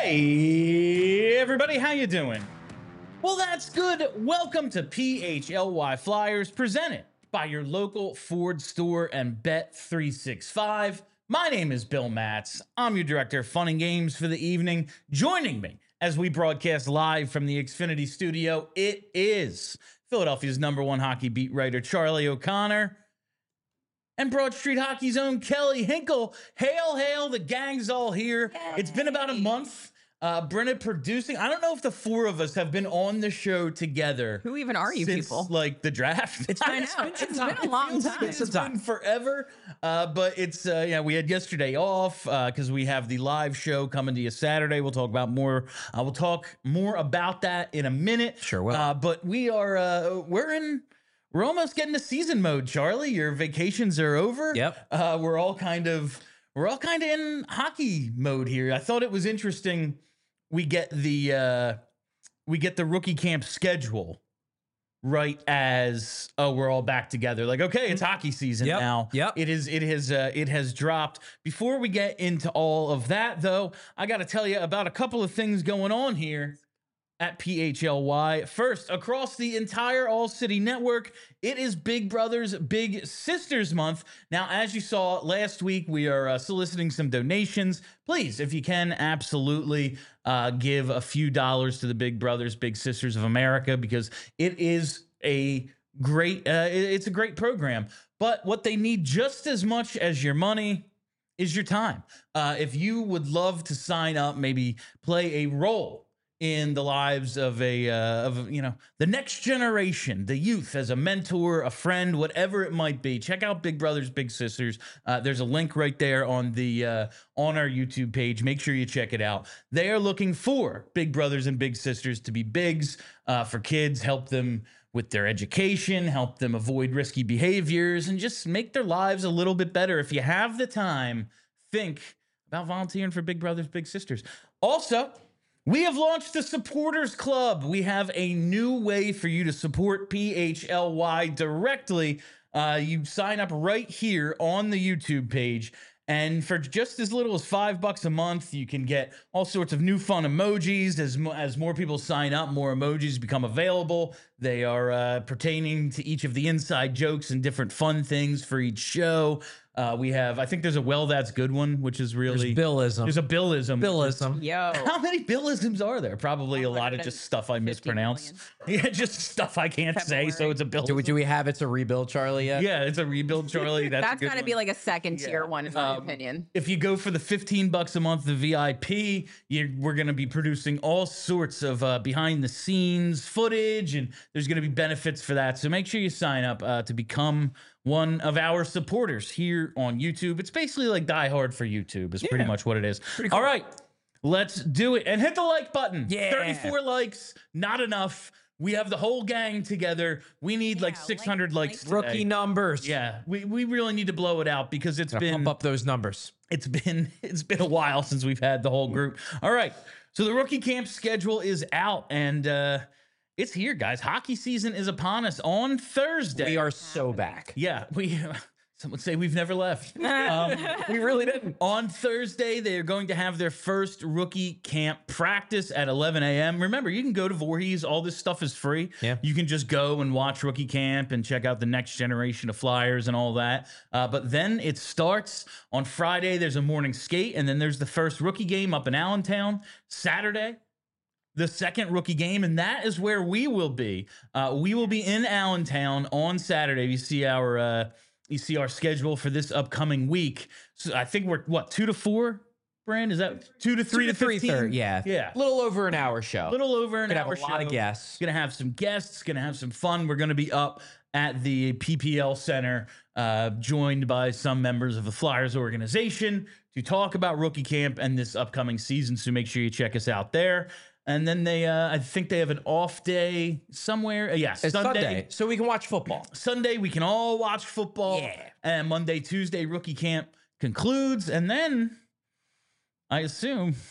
Hey, everybody, how you doing? Well, that's good. Welcome to PHLY Flyers, presented by your local Ford store and Bet365. My name is Bill Matz. I'm your director of fun and games for the evening. Joining me as we broadcast live from the Xfinity studio, it is Philadelphia's #1 hockey beat writer, Charlie O'Connor, and Broad Street Hockey's own Kelly Hinkle. Hail, hail, the gang's all here. Yay. It's been about a month. Brenna producing. I don't know if the four of us have been on the show together. Who even are you since, people? Like the draft. It's been a long time. It's been forever. But it's we had yesterday off because we have the live show coming to you Saturday. We'll talk about more. We'll talk more about that in a minute. Sure will. But we are we're almost getting to season mode, Charlie. Your vacations are over. Yep. We're all kind of in hockey mode here. I thought it was interesting. We get the rookie camp schedule right as we're all back together. Like, okay, it's hockey season now. Yep. It has dropped. Before we get into all of that, though, I got to tell you about a couple of things going on here at PHLY. First, across the entire All City network, it is Big Brothers Big Sisters month. Now, as you saw last week, we are soliciting some donations. Please, if you can, absolutely give a few dollars to the Big Brothers Big Sisters of America, because it is a great it's a great program. But what they need just as much as your money is your time. If you would love to sign up, maybe play a role in the lives of the next generation, the youth, as a mentor, a friend, whatever it might be, check out Big Brothers Big Sisters. There's a link right there on our YouTube page. Make sure you check it out. They are looking for Big Brothers and Big Sisters to be bigs for kids, help them with their education, help them avoid risky behaviors, and just make their lives a little bit better. If you have the time, think about volunteering for Big Brothers Big Sisters. Also, we have launched the Supporters Club. We have a new way for you to support PHLY directly. You sign up right here on the YouTube page, and for just as little as $5 a month, you can get all sorts of new fun emojis. As more people sign up, more emojis become available. They are pertaining to each of the inside jokes and different fun things for each show. We have, I think there's a well, that's good one, which is really... There's Billism. There's a Billism. Billism. Yo. How many Billisms are there? Probably a lot of just stuff I mispronounce. Yeah, just stuff I can't say, so it's a Billism. Do we have It's a Rebuild, Charlie, yet? Yeah, it's a rebuild, Charlie. That's got to be like a second tier one, in my opinion. If you go for the $15 a month, the VIP, we're going to be producing all sorts of behind-the-scenes footage, and there's going to be benefits for that. So make sure you sign up to become one of our supporters here on YouTube. It's basically like Die Hard for YouTube is pretty much what it is. Cool. All right, let's do it. And hit the like button. Yeah. 34 likes, not enough. We have the whole gang together. We need like 600 likes today. Rookie numbers. Yeah, we really need to blow it out because it's been... Pump up those numbers. It's been a while since we've had the whole group. All right, so the rookie camp schedule is out, and it's here, guys. Hockey season is upon us on Thursday. We are so back. Yeah, some would say we've never left. We really didn't. On Thursday, they are going to have their first rookie camp practice at 11 a.m. Remember, you can go to Voorhees. All this stuff is free. Yeah. You can just go and watch rookie camp and check out the next generation of Flyers and all that. But then it starts on Friday. There's a morning skate, and then there's the first rookie game up in Allentown. Saturday, the second rookie game, and that is where we will be. We will be in Allentown on Saturday. You see our schedule for this upcoming week. So I think we're 2 to 4. Brand, is that 2 to 3 to 15? Yeah. Yeah. Little over an hour show. Little over an hour show. Gonna have a lot of guests. Gonna have some guests. Gonna have some fun. We're gonna be up at the PPL Center, joined by some members of the Flyers organization to talk about rookie camp and this upcoming season. So make sure you check us out there. And then they, I think they have an off day somewhere. Yes, It's Sunday, so we can watch football. Sunday, we can all watch football. Yeah. And Monday, Tuesday, rookie camp concludes. And then, I assume,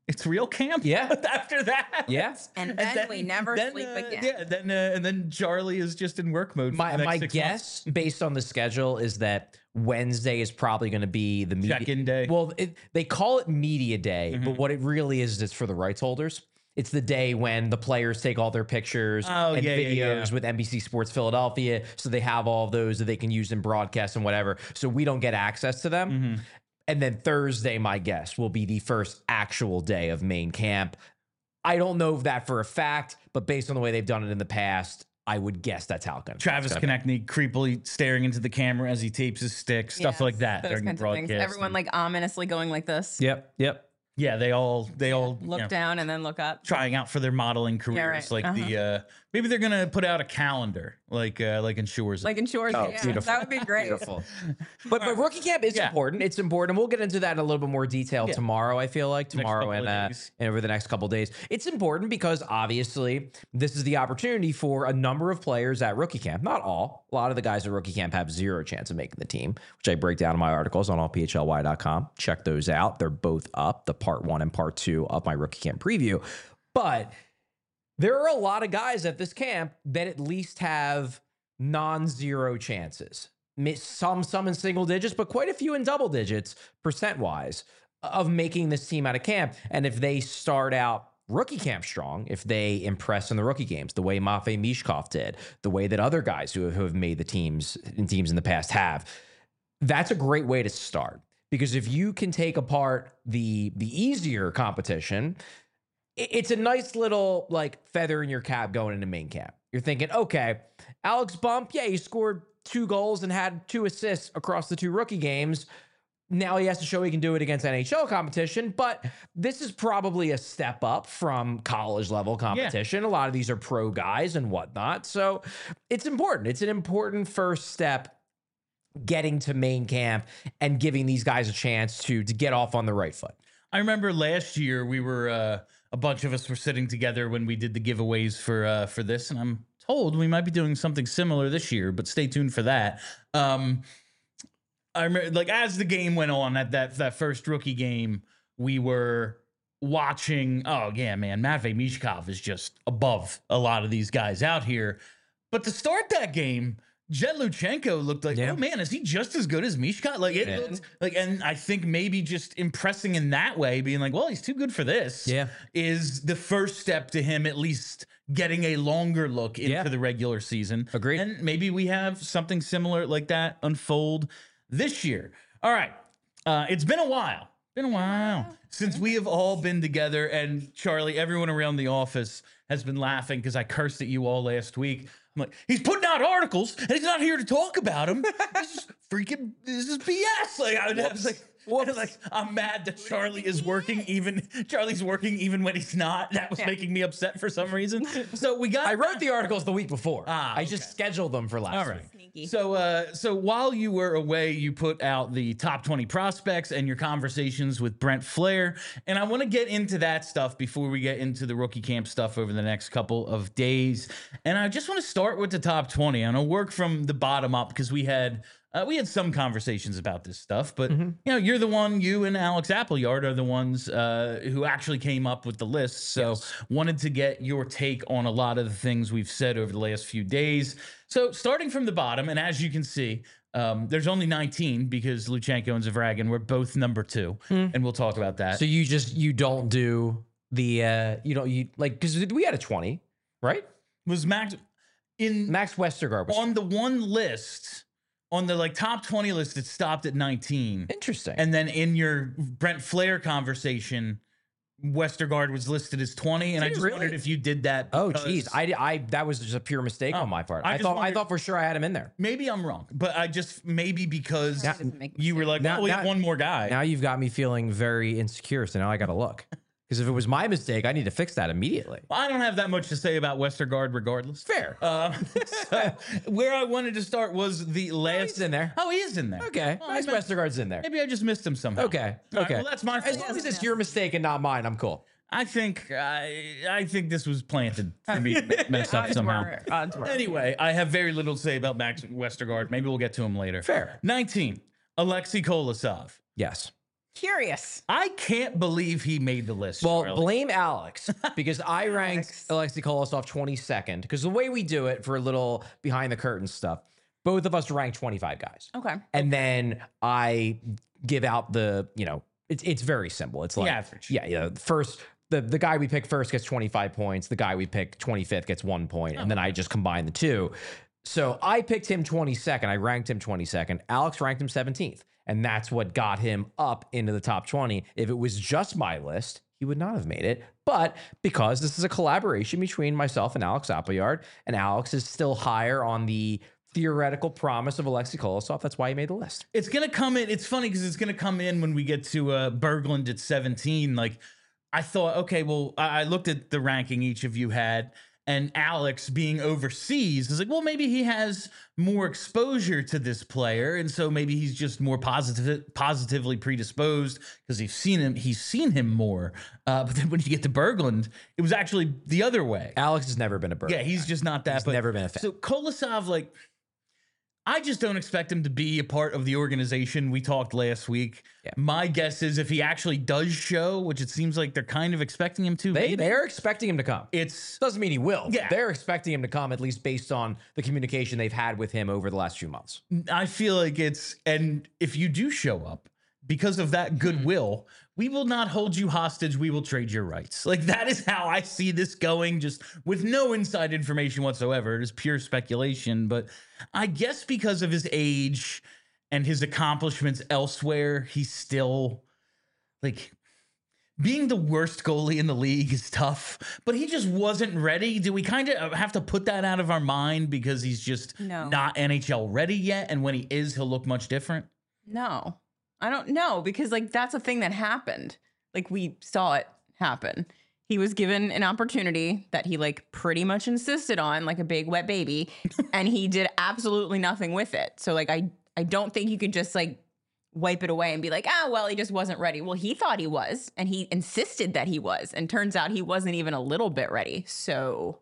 it's real camp. Yeah. After that. Yeah. And then we never sleep again. Yeah. And then Charlie is just in work mode. For the next My 6 guess, months. based on the schedule, is that Wednesday is probably going to be the media Check-in day. Well, they call it media day, but what it really is for the rights holders. It's the day when the players take all their pictures and videos with NBC Sports Philadelphia, so they have all of those that they can use in broadcasts and whatever. So we don't get access to them. And then Thursday, my guess, will be the first actual day of main camp. I don't know if that for a fact, but based on the way they've done it in the past, I would guess that's how it goes. Travis Konechny creepily staring into the camera as he tapes his stick, stuff like that Those during the kinds of things. broadcast. Everyone like ominously going like this. Yep. Yeah, they all Look down and then look up. trying out for their modeling careers. right. Like the maybe they're gonna put out a calendar like in Shores. Like in Shores. Oh, Yeah, beautiful. that would be great. Beautiful. But rookie camp is important. It's important. And we'll get into that in a little bit more detail tomorrow, I feel like. Tomorrow couple of and days. over the next couple of days. It's important because obviously this is the opportunity for a number of players at rookie camp. Not all. A lot of the guys at rookie camp have zero chance of making the team, which I break down in my articles on allphly.com. Check those out. They're both up, the part 1 and part 2 of my rookie camp preview. But there are a lot of guys at this camp that at least have non-zero chances. Some in single digits, but quite a few in double digits percent-wise of making this team out of camp. And if they start out rookie camp strong, if they impress in the rookie games, the way Matvei Mishkov did, the way that other guys who have made the teams in the past have, that's a great way to start. Because if you can take apart the easier competition, it's a nice little like feather in your cap going into main camp. You're thinking, okay, Alex Bump, yeah, he scored 2 goals and had 2 assists across the 2 rookie games. Now he has to show he can do it against NHL competition, but this is probably a step up from college level competition. A lot of these are pro guys and whatnot. So it's important. It's an important first step getting to main camp and giving these guys a chance to get off on the right foot. I remember last year we were a bunch of us were sitting together when we did the giveaways for this, and I'm told we might be doing something similar this year, but stay tuned for that. I remember, like, as the game went on at that first rookie game, we were watching. Oh yeah, man, Matvei Mishkov is just above a lot of these guys out here. But to start that game, Jed Luchenko looked like, oh man, is he just as good as Mishkov? Like it looked like, and I think maybe just impressing in that way, being like, well, he's too good for this. Yeah, is the first step to him at least getting a longer look into the regular season. Agreed. And maybe we have something similar like that unfold this year. All right, it's been a while. Since we have all been together, and Charlie, everyone around the office has been laughing because I cursed at you all last week. I'm like, he's putting out articles and he's not here to talk about them. This is BS. Like, I was like, I'm mad that Charlie is working Charlie's working even when he's not. That was making me upset for some reason. So I wrote the articles the week before. I just scheduled them for last week. Sneaky. So while you were away, you put out the top 20 prospects and your conversations with Brent Flair. And I want to get into that stuff before we get into the rookie camp stuff over the next couple of days. And I just want to start with the top 20. And I'll work from the bottom up because we had some conversations about this stuff, but you're the one, you and Alex Appleyard are the ones who actually came up with the list. So wanted to get your take on a lot of the things we've said over the last few days. So starting from the bottom, and as you can see, there's only 19 because Luchenko and Zavragin were both number 2, and we'll talk about that. So you don't do the because we had a 20, right? Was Max Westergaard was on the one list? On the top 20 list, it stopped at 19. Interesting. And then in your Brent Flair conversation, Westergaard was listed as 20, and I just wondered if you did that. Oh, geez, I that was just a pure mistake on my part. I thought for sure I had him in there. Maybe I'm wrong, but I just because you were like, we have one more guy. Now you've got me feeling very insecure, so now I got to look. Because if it was my mistake, I need to fix that immediately. Well, I don't have that much to say about Westergaard regardless. Fair. So where I wanted to start was the last. He's in there. Oh, he is in there. Okay. Well, Nice Westergaard's in there. Maybe I just missed him somehow. Okay. All right, Okay. well, that's my As fault. long as it's your mistake and not mine, I'm cool. I think this was planted for me to mess up somehow. Odds were. Anyway, I have very little to say about Max Westergaard. Maybe we'll get to him later. Fair. 19, Alexei Kolosov. Yes. Curious. I can't believe he made the list. Well, Charlie. blame Alex because I ranked Alexei Kolosov 22nd because the way we do it for a little behind the curtain stuff, both of us rank 25 guys. Okay. And then I give out the, it's very simple. It's like, average. Yeah. First, the guy we pick first gets 25 points. The guy we pick 25th gets 1 point. And then I just combine the two. So I picked him 22nd. I ranked him 22nd. Alex ranked him 17th. And that's what got him up into the top 20. If it was just my list, he would not have made it. But because this is a collaboration between myself and Alex Appleyard, and Alex is still higher on the theoretical promise of Alexei Kolosov, that's why he made the list. It's going to come in. It's funny because it's going to come in when we get to Berglund at 17. Like, I thought, okay, well, I looked at the ranking each of you had, and Alex being overseas is like, well, maybe he has more exposure to this player, and so maybe he's just more positively predisposed because he's seen him more. But then when you get to Berglund, it was actually the other way. Alex has never been a Berglund. Yeah, he's just not that. He's never been a fan. So Kolosov, like, I just don't expect him to be a part of the organization. We talked last week. Yeah. My guess is if he actually does show, which it seems like they're kind of expecting him to. They're expecting him to come. It's doesn't mean he will. Yeah. They're expecting him to come, at least based on the communication they've had with him over the last few months. I feel like and if you do show up, because of that goodwill, we will not hold you hostage. We will trade your rights. Like, that is how I see this going, just with no inside information whatsoever. It is pure speculation. But I guess because of his age and his accomplishments elsewhere, he's still, like, being the worst goalie in the league is tough, but he just wasn't ready. Do we kind of have to put that out of our mind because he's just not NHL ready yet? And when he is, he'll look much different? No. I don't know, because like that's a thing that happened. Like, we saw it happen. He was given an opportunity that he like pretty much insisted on, like a big wet baby, and he did absolutely nothing with it. So like I don't think you could just like wipe it away and be like, well, he just wasn't ready. Well, he thought he was, and he insisted that he was, and turns out he wasn't even a little bit ready. So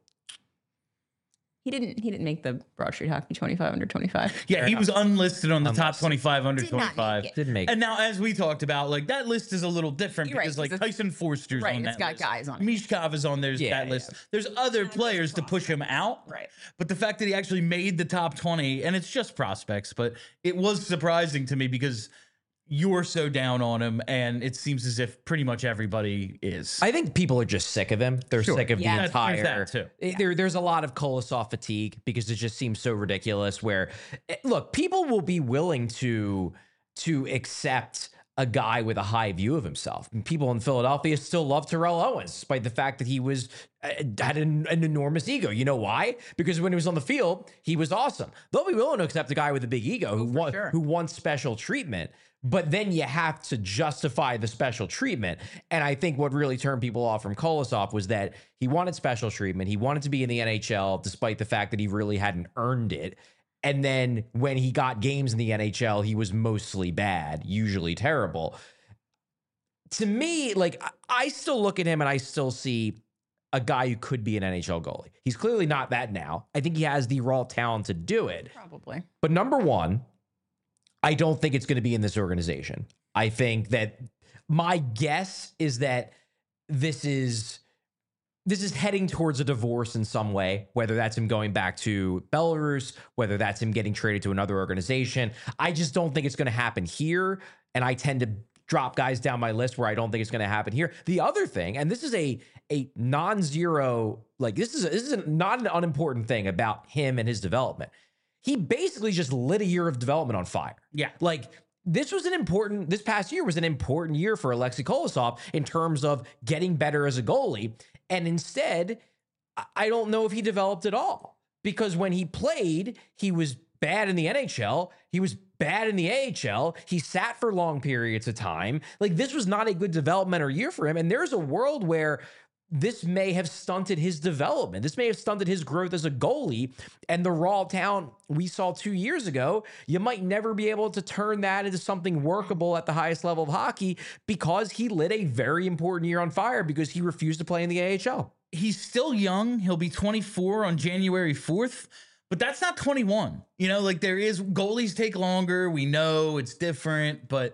he didn't make the Broad Street Hockey 25 under 25. Yeah, he was unlisted on the top 25 under 25. Didn't make it. And now, as we talked about, like, that list is a little different because like Tyson Forster's on that it's got list. guys on it. Mishkov is on that list. There's other players to push him out. Right. But the fact that he actually made the top 20, and it's just prospects, but it was surprising to me because you're so down on him, and it seems as if pretty much everybody is. I think people are just sick of him. They're sick of the entire. There's that too. There's a lot of Kolosov fatigue because it just seems so ridiculous. Where, look, people will be willing to accept a guy with a high view of himself. And people in Philadelphia still love Terrell Owens, despite the fact that he had an enormous ego. You know why? Because when he was on the field, he was awesome. They'll be willing to accept a guy with a big ego who wants special treatment. But then you have to justify the special treatment. And I think what really turned people off from Kolosov was that he wanted special treatment. He wanted to be in the NHL, despite the fact that he really hadn't earned it. And then when he got games in the NHL, he was mostly bad, usually terrible. To me, like, I still look at him and I still see a guy who could be an NHL goalie. He's clearly not that now. I think he has the raw talent to do it. Probably. But number one, I don't think it's going to be in this organization. I think that my guess is that this is heading towards a divorce in some way, whether that's him going back to Belarus, whether that's him getting traded to another organization. I just don't think it's going to happen here. And I tend to drop guys down my list where I don't think it's going to happen here. The other thing, and this is a non-zero, like this is not an unimportant thing about him and his development. He basically just lit a year of development on fire. Yeah. Like, this past year was an important year for Alexei Kolosov in terms of getting better as a goalie. And instead, I don't know if he developed at all, because when he played, he was bad in the NHL. He was bad in the AHL. He sat for long periods of time. Like, this was not a good developmental year for him. And there's a world where this may have stunted his development. This may have stunted his growth as a goalie. And the raw talent we saw 2 years ago, you might never be able to turn that into something workable at the highest level of hockey because he lit a very important year on fire because he refused to play in the AHL. He's still young. He'll be 24 on January 4th, but that's not 21. You know, like, goalies take longer. We know it's different, but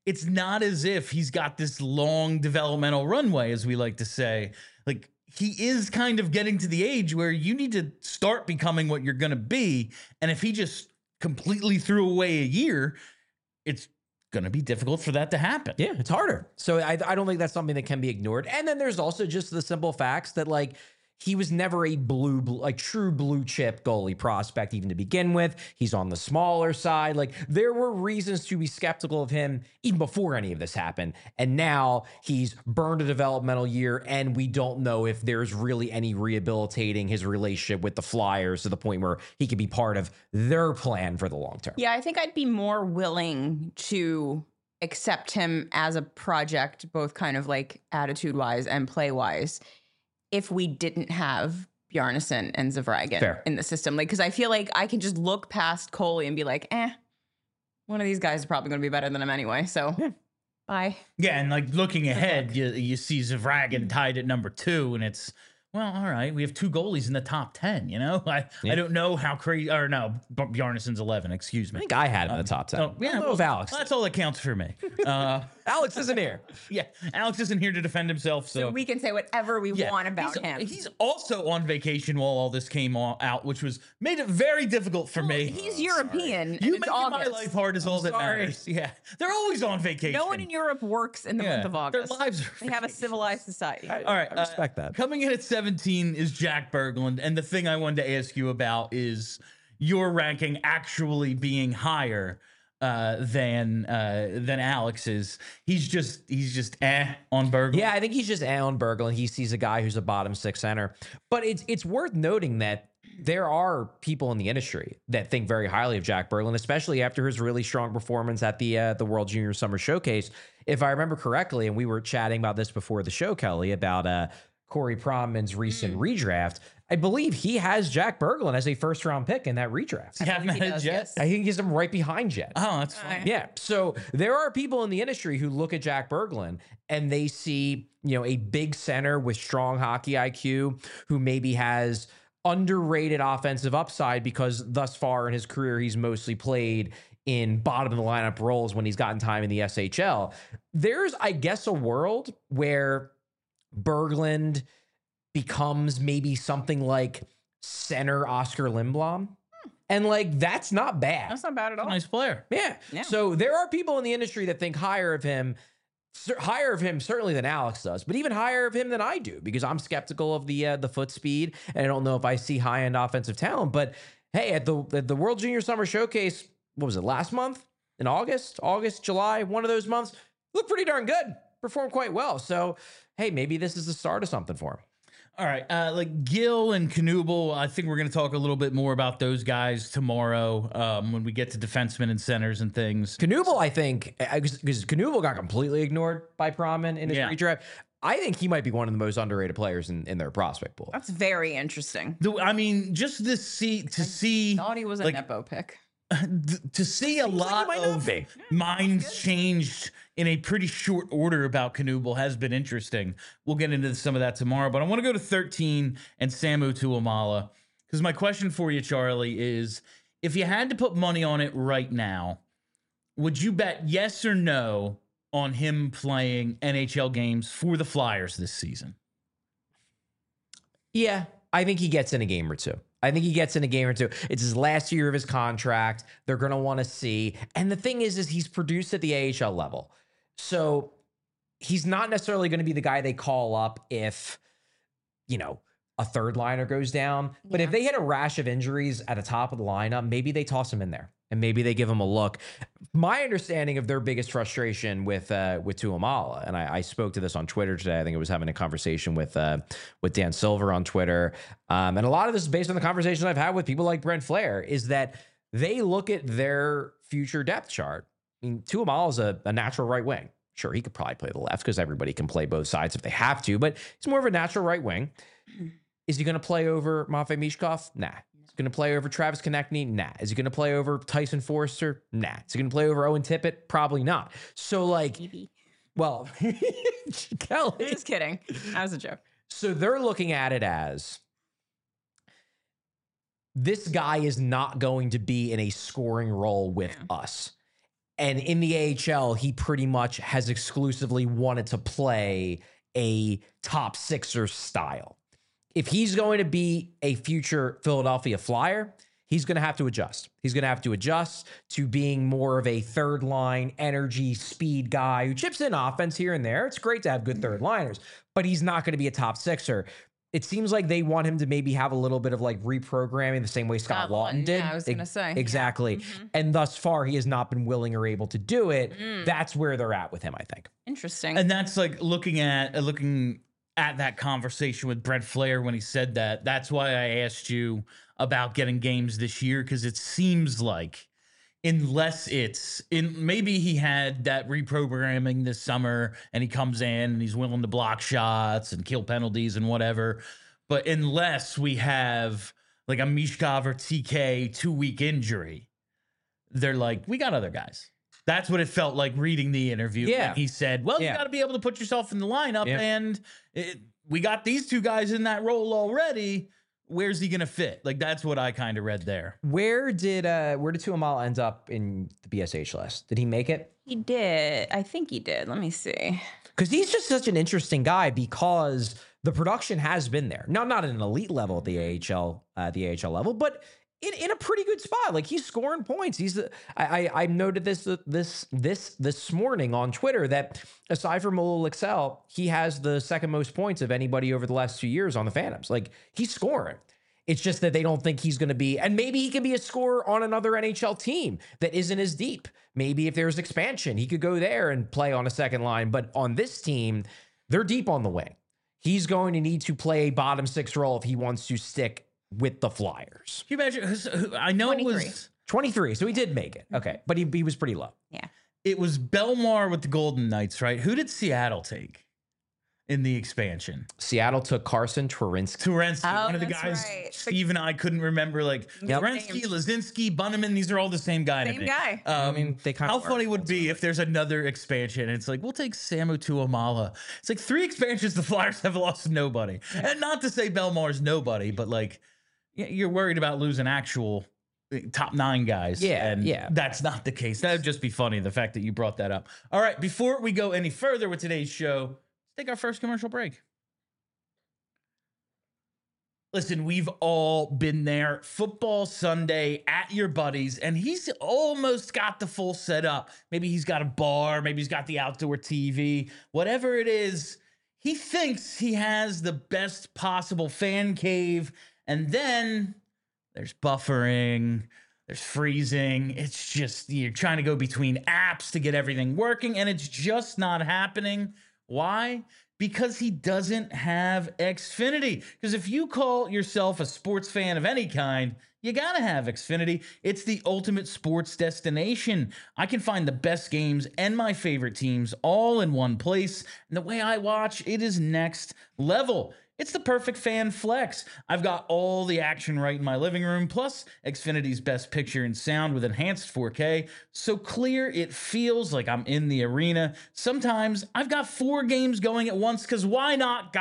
it's not as if he's got this long developmental runway, as we like to say. Like, he is kind of getting to the age where you need to start becoming what you're going to be. And if he just completely threw away a year, it's going to be difficult for that to happen. Yeah, it's harder. So I don't think that's something that can be ignored. And then there's also just the simple facts that, like, he was never a true blue chip goalie prospect even to begin with. He's on the smaller side. Like, there were reasons to be skeptical of him even before any of this happened. And now he's burned a developmental year, and we don't know if there's really any rehabilitating his relationship with the Flyers to the point where he could be part of their plan for the long term. Yeah, I think I'd be more willing to accept him as a project, both kind of like attitude wise and play wise, if we didn't have Bjarnason and Zvragin in the system. Like, because I feel like I can just look past Coley and be like, one of these guys is probably going to be better than him anyway. So, bye. Yeah, and like looking ahead, you see Zvragin tied at number 2, and it's, well, all right, we have 2 goalies in the top 10, you know? I don't know how crazy, or no, Bjarnason's 11, excuse me. I think I had him in the top 10. Oh, yeah, well, Alex. That's all that counts for me. Alex isn't here. Yeah, Alex isn't here to defend himself, So we can say whatever we want about him. He's also on vacation while all this came out, which made it very difficult for me. He's European. You and make it's August. my life hard is all that matters. Yeah, they're always on vacation. No one in Europe works in the month of August. Their lives are They have a civilized society. all right, I respect that. Coming in at 17 is Jack Berglund, and the thing I wanted to ask you about is your ranking actually being higher than Alex's. He's just on Berglund. Yeah, I think he's just on Berglund. He sees a guy who's a bottom 6 center. But it's worth noting that there are people in the industry that think very highly of Jack Berglund, especially after his really strong performance at the World Junior Summer Showcase. If I remember correctly, and we were chatting about this before the show, Kelly, about Corey Pronman's recent redraft, I believe he has Jack Berglund as a first-round pick in that redraft. You haven't had Jet? Yes. I think he's him right behind Jet. Oh, that's fine. Yeah. So there are people in the industry who look at Jack Berglund and they see, a big center with strong hockey IQ who maybe has underrated offensive upside because thus far in his career, he's mostly played in bottom of the lineup roles when he's gotten time in the SHL. There's, I guess, a world where Berglund becomes maybe something like center Oscar Lindblom. And like, that's not bad. That's not bad at all. Nice player. Yeah. So there are people in the industry that think higher of him certainly than Alex does, but even higher of him than I do, because I'm skeptical of the foot speed. And I don't know if I see high end offensive talent, but hey, at the World Junior Summer Showcase, what was it, last month in August, July, one of those months, looked pretty darn good, performed quite well. So, hey, maybe this is the start of something for him. All right, like Gill and Knuble, I think we're going to talk a little bit more about those guys tomorrow when we get to defensemen and centers and things. Knuble, I think, because Knuble got completely ignored by Pronman in his redraft. I think he might be one of the most underrated players in their prospect pool. That's very interesting. I mean, just to see, Thought he was a Nepo pick. To see a lot of minds changed in a pretty short order about Knuble has been interesting. We'll get into some of that tomorrow, but I want to go to 13 and Samu Tuomaala, because my question for you, Charlie, is if you had to put money on it right now, would you bet yes or no on him playing NHL games for the Flyers this season? Yeah, I think he gets in a game or two. It's his last year of his contract. They're going to want to see. And the thing is he's produced at the AHL level. So he's not necessarily going to be the guy they call up if, a third liner goes down. But if they hit a rash of injuries at the top of the lineup, maybe they toss him in there and maybe they give him a look. My understanding of their biggest frustration with Tuomaala, and I spoke to this on Twitter today. I think I was having a conversation with Dan Silver on Twitter. And a lot of this is based on the conversations I've had with people like Brent Flair, is that they look at their future depth chart. I mean, Tuomaala is a natural right wing. Sure, he could probably play the left because everybody can play both sides if they have to, but he's more of a natural right wing. Is he going to play over Matvei Mishkov? Nah. Is he going to play over Travis Konechny? Nah. Is he going to play over Tyson Forster? Nah. Is he going to play over Owen Tippett? Probably not. So like, well, Kelly. Just kidding. That was a joke. So they're looking at it as this guy is not going to be in a scoring role with us. And in the AHL, he pretty much has exclusively wanted to play a top sixer style. If he's going to be a future Philadelphia Flyer, he's going to have to adjust. He's going to have to adjust to being more of a third line energy speed guy who chips in offense here and there. It's great to have good third liners, but he's not going to be a top sixer. It seems like they want him to maybe have a little bit of like reprogramming the same way Scott Laughton did. Yeah, I was going to say. Exactly. Yeah. And thus far, he has not been willing or able to do it. That's where they're at with him, I think. Interesting. And that's like looking at that conversation with Brett Flair when he said that. That's why I asked you about getting games this year, because it seems like unless maybe he had that reprogramming this summer and he comes in and he's willing to block shots and kill penalties and whatever. But unless we have like a Mishkov or TK 2-week injury, they're like, we got other guys. That's what it felt like reading the interview. Yeah. When he said, well, you got to be able to put yourself in the lineup, and we got these two guys in that role already. Where's he going to fit? Like, that's what I kind of read there. Where did Tuamala end up in the BSH list? Did he make it? He did. I think he did. Let me see. Because he's just such an interesting guy because the production has been there. Now, not at an elite level at the AHL level, but in a pretty good spot. Like, he's scoring points. I noted this morning on Twitter that aside from Molo Excel, he has the second most points of anybody over the last 2 years on the Phantoms. Like, he's scoring. It's just that they don't think he's going to be, and maybe he can be a scorer on another NHL team that isn't as deep. Maybe if there's expansion, he could go there and play on a second line. But on this team, they're deep on the wing. He's going to need to play a bottom six role if he wants to stick with the Flyers. Can you imagine? I know 23. it was 23, so he did make it. Okay, but he was pretty low. Yeah. it was Belmar with the Golden Knights, right? Who did Seattle take in the expansion? Seattle took Carson Twarynski. One of the that's guys right. Steve and I couldn't remember, like Twarynski, Lazinski, Bunneman. These are all the same guy. Same guy. I mean, they kind How of funny would it be if there's another expansion and it's like, we'll take Samu Tuamala. It's like 3 expansions the Flyers have lost nobody. And not to say Belmar's nobody, but like you're worried about losing actual top 9 guys. And that's not the case. That would just be funny, the fact that you brought that up. All right, before we go any further with today's show, let's take our first commercial break. Listen, we've all been there. Football Sunday at your buddy's, and he's almost got the full setup. Maybe he's got a bar, maybe he's got the outdoor TV, whatever it is. He thinks he has the best possible fan cave, and then there's buffering, there's freezing. It's just, you're trying to go between apps to get everything working, and it's just not happening. Why? Because he doesn't have Xfinity. Because if you call yourself a sports fan of any kind, you gotta have Xfinity. It's the ultimate sports destination. I can find the best games and my favorite teams all in one place. And the way I watch, it is next level. It's the perfect fan flex. I've got all the action right in my living room, plus Xfinity's best picture and sound with enhanced 4K, so clear it feels like I'm in the arena. Sometimes I've got 4 games going at once, because why not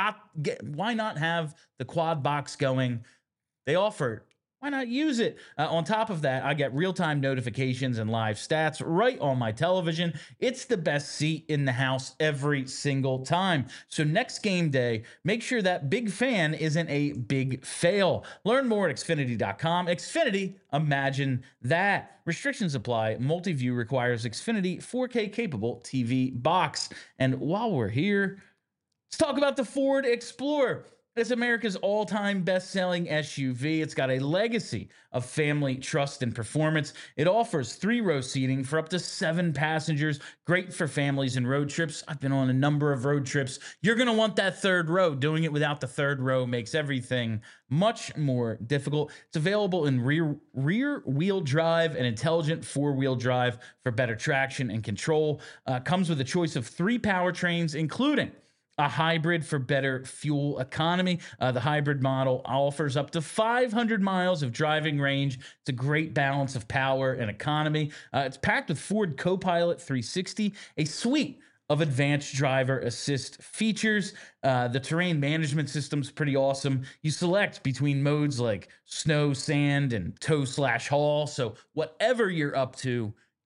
have the quad box going? They offer it. Why not use it? On top of that, I get real-time notifications and live stats right on my television. It's the best seat in the house every single time. So next game day, make sure that big fan isn't a big fail. Learn more at Xfinity.com. Xfinity, imagine that. Restrictions apply. Multi-view requires Xfinity 4K capable TV box. And while we're here, let's talk about the Ford Explorer. It's America's all-time best-selling SUV. It's got a legacy of family trust and performance. It offers 3-row seating for up to 7 passengers. Great for families and road trips. I've been on a number of road trips. You're going to want that 3rd row. Doing it without the 3rd row makes everything much more difficult. It's available in rear-wheel drive and intelligent 4-wheel drive for better traction and control. Comes with a choice of 3 powertrains, including a hybrid for better fuel economy. The hybrid model offers up to 500 miles of driving range. It's a great balance of power and economy. It's packed with Ford Copilot 360, a suite of advanced driver assist features. The terrain management system's pretty awesome. You select between modes like snow, sand, and tow/haul. So whatever you're up to,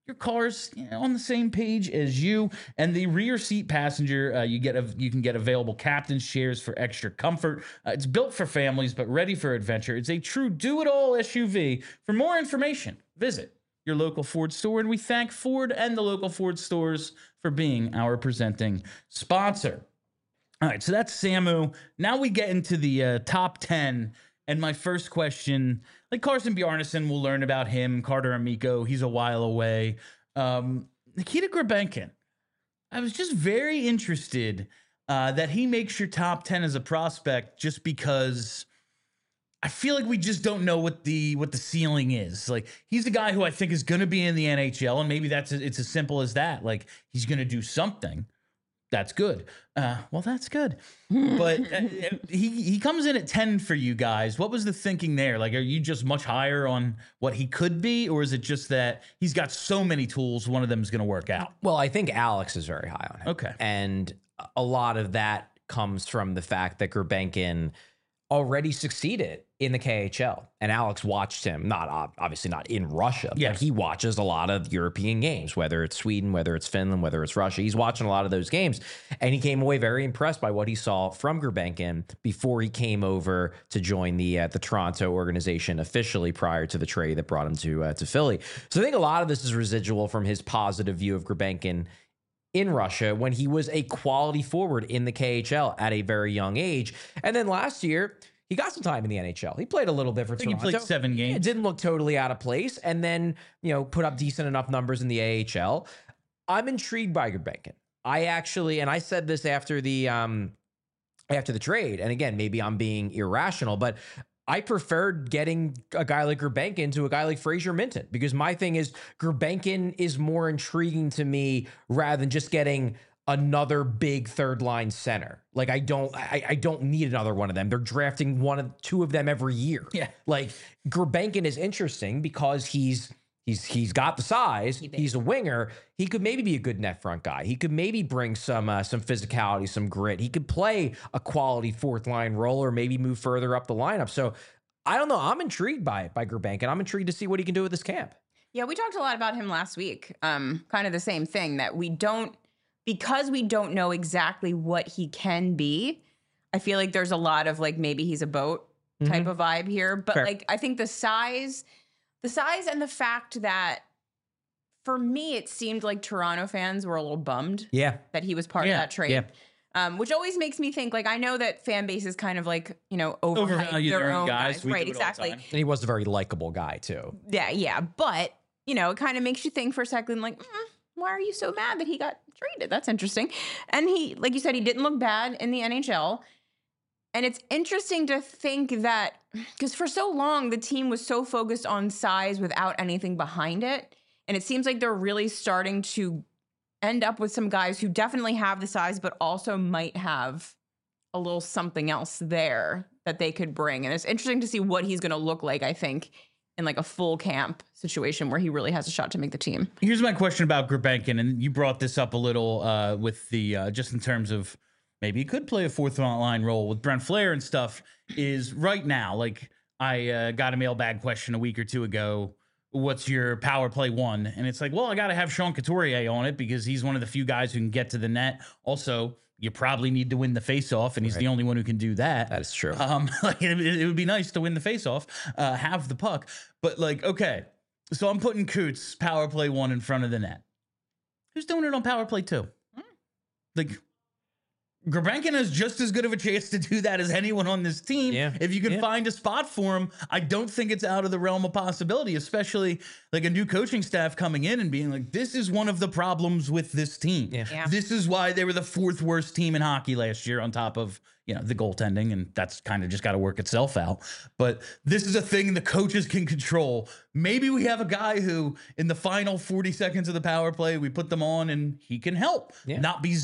your car's on the same page as you. And the rear seat passenger, you can get available captain's chairs for extra comfort. It's built for families, but ready for adventure. It's a true do-it-all SUV. For more information, visit your local Ford store. And we thank Ford and the local Ford stores for being our presenting sponsor. All right, so that's Samu. Now we get into the top 10. And my first question, like Carson Bjarnason, we'll learn about him. Carter Amico, he's a while away. Nikita Grabenkin, I was just very interested that he makes your top 10 as a prospect, just because I feel like we just don't know what the ceiling is. Like, he's the guy who I think is going to be in the NHL, and maybe it's as simple as that. Like, he's going to do something. That's good. Well, that's good. But he comes in at 10 for you guys. What was the thinking there? Like, are you just much higher on what he could be, or is it just that he's got so many tools, one of them is going to work out? Well, I think Alex is very high on him. Okay. And a lot of that comes from the fact that Gurbenkin already succeeded in the KHL, and Alex watched him, obviously not in Russia, but he watches a lot of European games, whether it's Sweden, whether it's Finland, whether it's Russia. He's watching a lot of those games, and he came away very impressed by what he saw from Gurbenkin before he came over to join the Toronto organization officially prior to the trade that brought him to Philly. So I think a lot of this is residual from his positive view of Gurbenkin in Russia when he was a quality forward in the KHL at a very young age. And then last year, he got some time in the NHL. He played a little bit for Toronto. He played 7 games. It didn't look totally out of place. And then, put up decent enough numbers in the AHL. I'm intrigued by Gurbenkin. I said this after the trade. And again, maybe I'm being irrational, but I preferred getting a guy like Gurbenkin to a guy like Fraser Minton, because my thing is Gurbenkin is more intriguing to me rather than just getting another big third line center. Like, I don't need another one of them. They're drafting two of them every year. Yeah. Like, Gurbenkin is interesting because he's got the size. He's a winger. He could maybe be a good net front guy. He could maybe bring some physicality, some grit. He could play a quality fourth line role, or maybe move further up the lineup. So I don't know. I'm intrigued by Gurbenkin. I'm intrigued to see what he can do with this camp. Yeah, we talked a lot about him last week. Kind of the same thing, that because we don't know exactly what he can be. I feel like there's a lot of like, maybe he's a boat type of vibe here. But Fair. I think the size and the fact that, for me, it seemed like Toronto fans were a little bummed that he was part of that trade. Yeah. Which always makes me think, like, I know that fan bases kind of like, overhype their own guys. Right, exactly. And he was a very likable guy too. Yeah. But, it kind of makes you think for a second, like, why are you so mad that he got traded? That's interesting. And he, like you said, he didn't look bad in the NHL. And it's interesting to think that, because for so long, the team was so focused on size without anything behind it. And it seems like they're really starting to end up with some guys who definitely have the size, but also might have a little something else there that they could bring. And it's interesting to see what he's going to look like, I think, in like a full camp situation where he really has a shot to make the team. Here's my question about Gurbenkin, and you brought this up a little with the just in terms of maybe he could play a fourth line role with Brent Flair and stuff. Is right now, like, I got a mailbag question a week or two ago. What's your power play one? And it's like, well, I got to have Sean Couturier on it because he's one of the few guys who can get to the net. Also, you probably need to win the faceoff, and he's the only one who can do that. That is true. Like, it would be nice to win the faceoff, have the puck. But, like, okay, so I'm putting Coots power play 1 in front of the net. Who's doing it on power play 2? Like, Gurbenkin has just as good of a chance to do that as anyone on this team. Yeah. If you can find a spot for him, I don't think it's out of the realm of possibility, especially like a new coaching staff coming in and being like, this is one of the problems with this team. Yeah. This is why they were the 4th worst team in hockey last year, on top of, the goaltending, and that's kind of just got to work itself out. But this is a thing the coaches can control. Maybe we have a guy who, in the final 40 seconds of the power play, we put them on and he can help, not be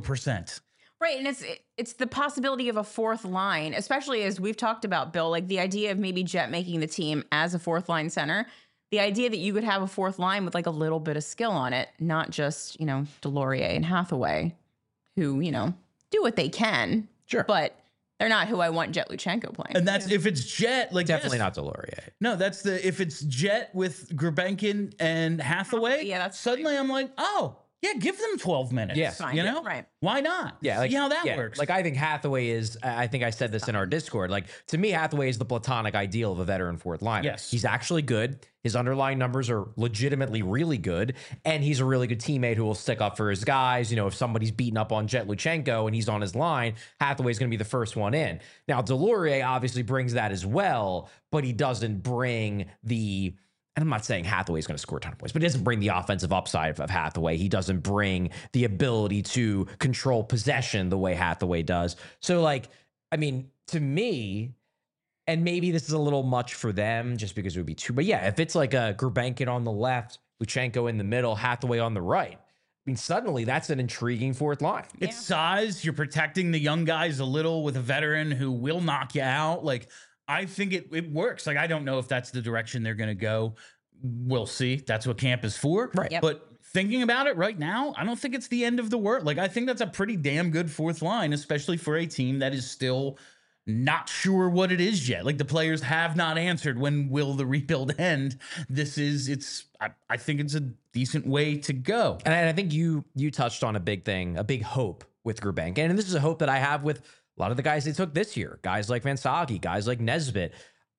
0%. Right, and it's the possibility of a fourth line, especially as we've talked about, Bill, like the idea of maybe Jet making the team as a fourth line center, the idea that you could have a fourth line with like a little bit of skill on it, not just, Delorier and Hathaway, who, do what they can. Sure. But They're not who I want Jet Luchenko playing. And that's if it's Jet, like Definitely yes. not Delorier. No, that's if it's Jet with Gurbenkin and Hathaway. Yeah, that's suddenly I'm like, oh yeah, give them 12 minutes. Yeah. Fine. You know, Right. Why not? Yeah, like see how that yeah, works. Like I think Hathaway is. I think I said this in our Discord. Like to me, Hathaway is the platonic ideal of a veteran fourth liner. Yes. He's actually good. His underlying numbers are legitimately really good, and he's a really good teammate who will stick up for his guys. You know, if somebody's beating up on Jet Luchenko and he's on his line, Hathaway's going to be the first one in. Now, Delorier obviously brings that as well, but he doesn't bring the. And I'm not saying Hathaway's going to score a ton of points, but he doesn't bring the offensive upside of Hathaway. He doesn't bring the ability to control possession the way Hathaway does. So, like, I mean, to me, and maybe this is a little much for them just because it would be too, but yeah, if it's like a Gurbenkin on the left, Luchenko in the middle, Hathaway on the right, I mean, suddenly that's an intriguing fourth line. it's size. You're protecting the young guys a little with a veteran who will knock you out. Like, I think it works. Like, I don't know if that's the direction they're going to go. We'll see. That's what camp is for. Right. Yep. But thinking about it right now, I don't think it's the end of the world. Like, I think that's a pretty damn good fourth line, especially for a team that is still not sure what it is yet. Like, the players have not answered when will the rebuild end. I think it's a decent way to go. And I think you touched on a big thing, a big hope with Gurbenkin. And this is a hope that I have with a lot of the guys they took this year, guys like Van Sage, guys like Nesbitt.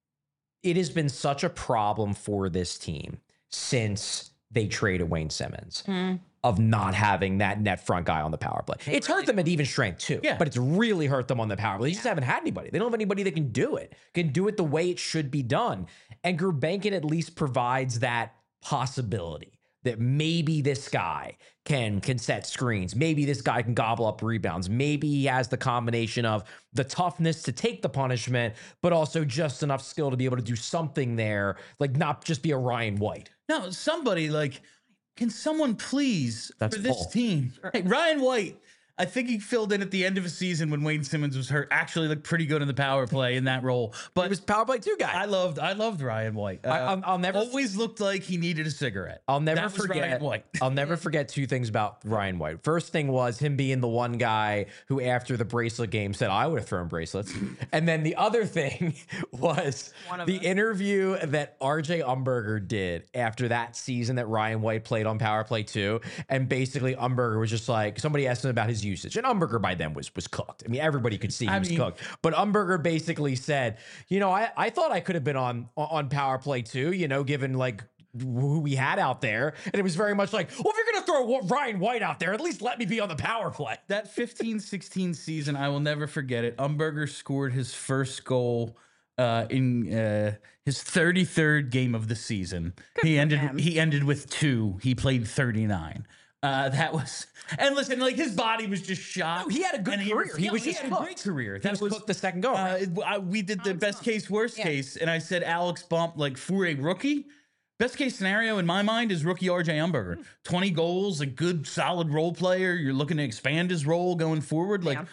It has been such a problem for this team since they traded Wayne Simmons of not having that net front guy on the power play. It's hurt them at even strength too, Yeah. but it's really hurt them on the power play. They just haven't had anybody. They don't have anybody that can do it the way it should be done. And Gurbenkin at least provides that possibility that maybe this guy can set screens. Maybe this guy can gobble up rebounds. Maybe he has the combination of the toughness to take the punishment, but also just enough skill to be able to do something there, like not just be a Ryan White. No, somebody like, can someone please That's for this Paul. team? Hey, Ryan White. I think he filled in at the end of a season when Wayne Simmons was hurt. Actually, looked pretty good in the power play in that role. But He was power play 2 guy. I loved Ryan White. I'll never always looked like he needed a cigarette. I'll never That was forget. Ryan White. I'll never forget 2 things about Ryan White. First thing was him being the one guy who, after the bracelet game, said, "I would have thrown bracelets." And then the other thing was the interview that RJ Umberger did after that season that Ryan White played on Power Play 2, and basically Umberger was just like, somebody asked him about his usage, and Umberger by then was cooked. I mean, everybody could see he was cooked. But Umberger basically said, you know, I thought I could have been on Power Play 2, you know, given like who we had out there. And it was very much like, well, if you're going to throw Ryan White out there, at least let me be on the power play. That 15-16 season, I will never forget it. Umberger scored his first goal in his 33rd game of the season. He ended with 2. He played 39. That was, and listen, like his body was just shot. No, he had a good career. He was just had a great cooked. career. That was cooked the second go. We did the best case, worst case, and I said Alex Bump, like for a rookie. Best case scenario in my mind is rookie RJ Umberger. 20 goals, a good solid role player. You're looking to expand his role going forward. Like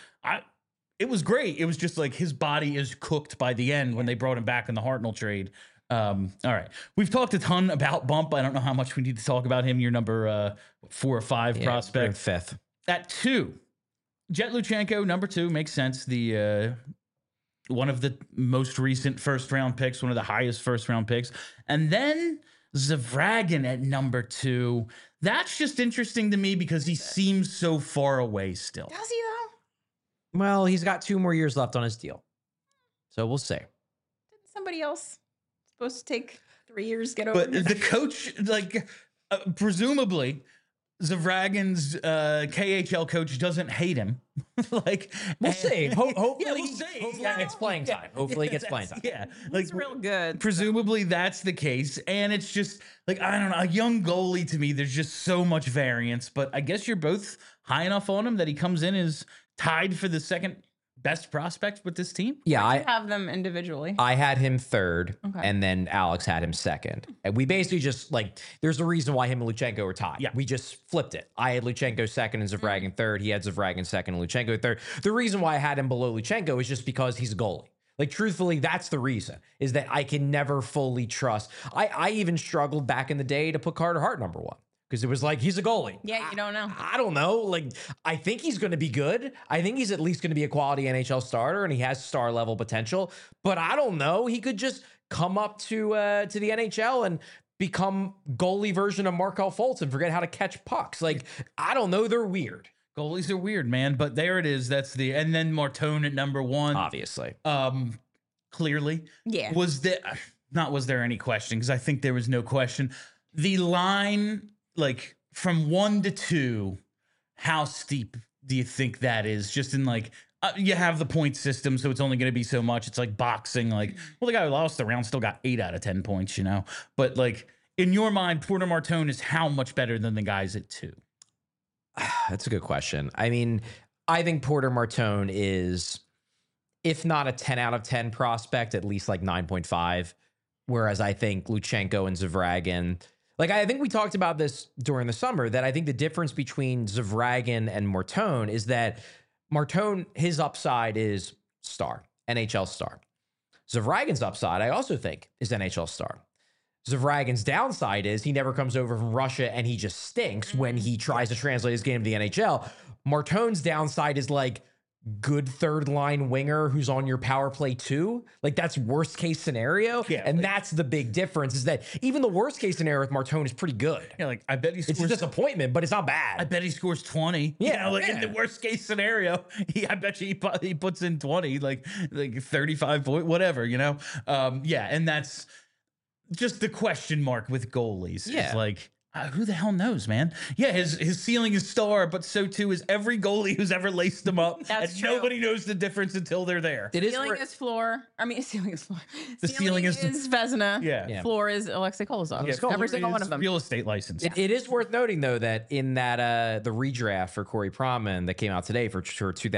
it was great. It was just like his body is cooked by the end when they brought him back in the Hartnell trade. All right. We've talked a ton about Bump. I don't know how much we need to talk about him. Your number 4 or 5 prospect. 5th. At 2, Jet Luchenko, number 2, makes sense. The one of the most recent first round picks, one of the highest first round picks. And then Zavragin at number 2. That's just interesting to me because he seems so far away still. Does he though? Well, he's got 2 more years left on his deal. So we'll see. Didn't somebody else supposed to take 3 years to get over? But the coach, like, presumably, Zavragin's KHL coach doesn't hate him. Like, We'll see. Hopefully, yeah, we'll see. Hopefully he gets playing time. Hopefully he gets playing time. Yeah, like He's real good. presumably that's the case, and it's just like, I don't know, a young goalie to me. There's just so much variance, but I guess you're both high enough on him that he comes in as tied for the second best prospect with this team. Yeah, I have them individually. I had him 3rd, Okay. and then Alex had him 2nd. And we basically just, like, there's a reason why him and Luchenko were tied. Yeah. We just flipped it. I had Luchenko 2nd and Zavragin 3rd. He had Zavragin 2nd and Luchenko 3rd. The reason why I had him below Luchenko is just because he's a goalie. Like, truthfully, that's the reason, is that I can never fully trust. I even struggled back in the day to put Carter Hart number 1. because it was like, he's a goalie. Yeah, you don't know. I don't know. Like, I think he's going to be good. I think he's at least going to be a quality NHL starter, and he has star level potential. But I don't know. He could just come up to the NHL and become goalie version of Markel Fultz and forget how to catch pucks. Like, I don't know. They're weird. Goalies are weird, man. But there it is. And then Martone at number 1. Obviously. Clearly. Yeah. Was there any question? Because I think there was no question. The line, like from 1 to 2, how steep do you think that is? Just in like, you have the point system, so it's only going to be so much. It's like boxing. Like, well, the guy who lost the round still got 8 out of 10 points, But like, in your mind, Porter Martone is how much better than the guys at 2? That's a good question. I mean, I think Porter Martone is, if not a 10 out of 10 prospect, at least like 9.5. Whereas I think Luchenko and Zavragin, like I think we talked about this during the summer, that I think the difference between Zavragin and Martone is that Martone, his upside is star, NHL star. Zavragin's upside, I also think, is NHL star. Zavragin's downside is he never comes over from Russia and he just stinks when he tries to translate his game to the NHL. Martone's downside is like good third line winger who's on your power play too. Like, that's worst case scenario. Yeah, and like, that's the big difference, is that even the worst case scenario with Martone is pretty good. Yeah, like I bet he scores. It's a disappointment, but it's not bad. I bet he scores 20. Yeah, in the worst case scenario, I bet you he puts in 20, like 35 point, whatever, and that's just the question mark with goalies. Yeah. Is like, who the hell knows, man? Yeah, his ceiling is star, but so too is every goalie who's ever laced him up. That's and true. nobody knows the difference until they're there. It is Ceiling wor- is floor. I mean, ceiling is floor. The ceiling is Vezina. Yeah. Floor is Alexei Kolozov. Yeah, Every single one of them. Real estate license. It is worth noting, though, that in that the redraft for Corey Proman that came out today for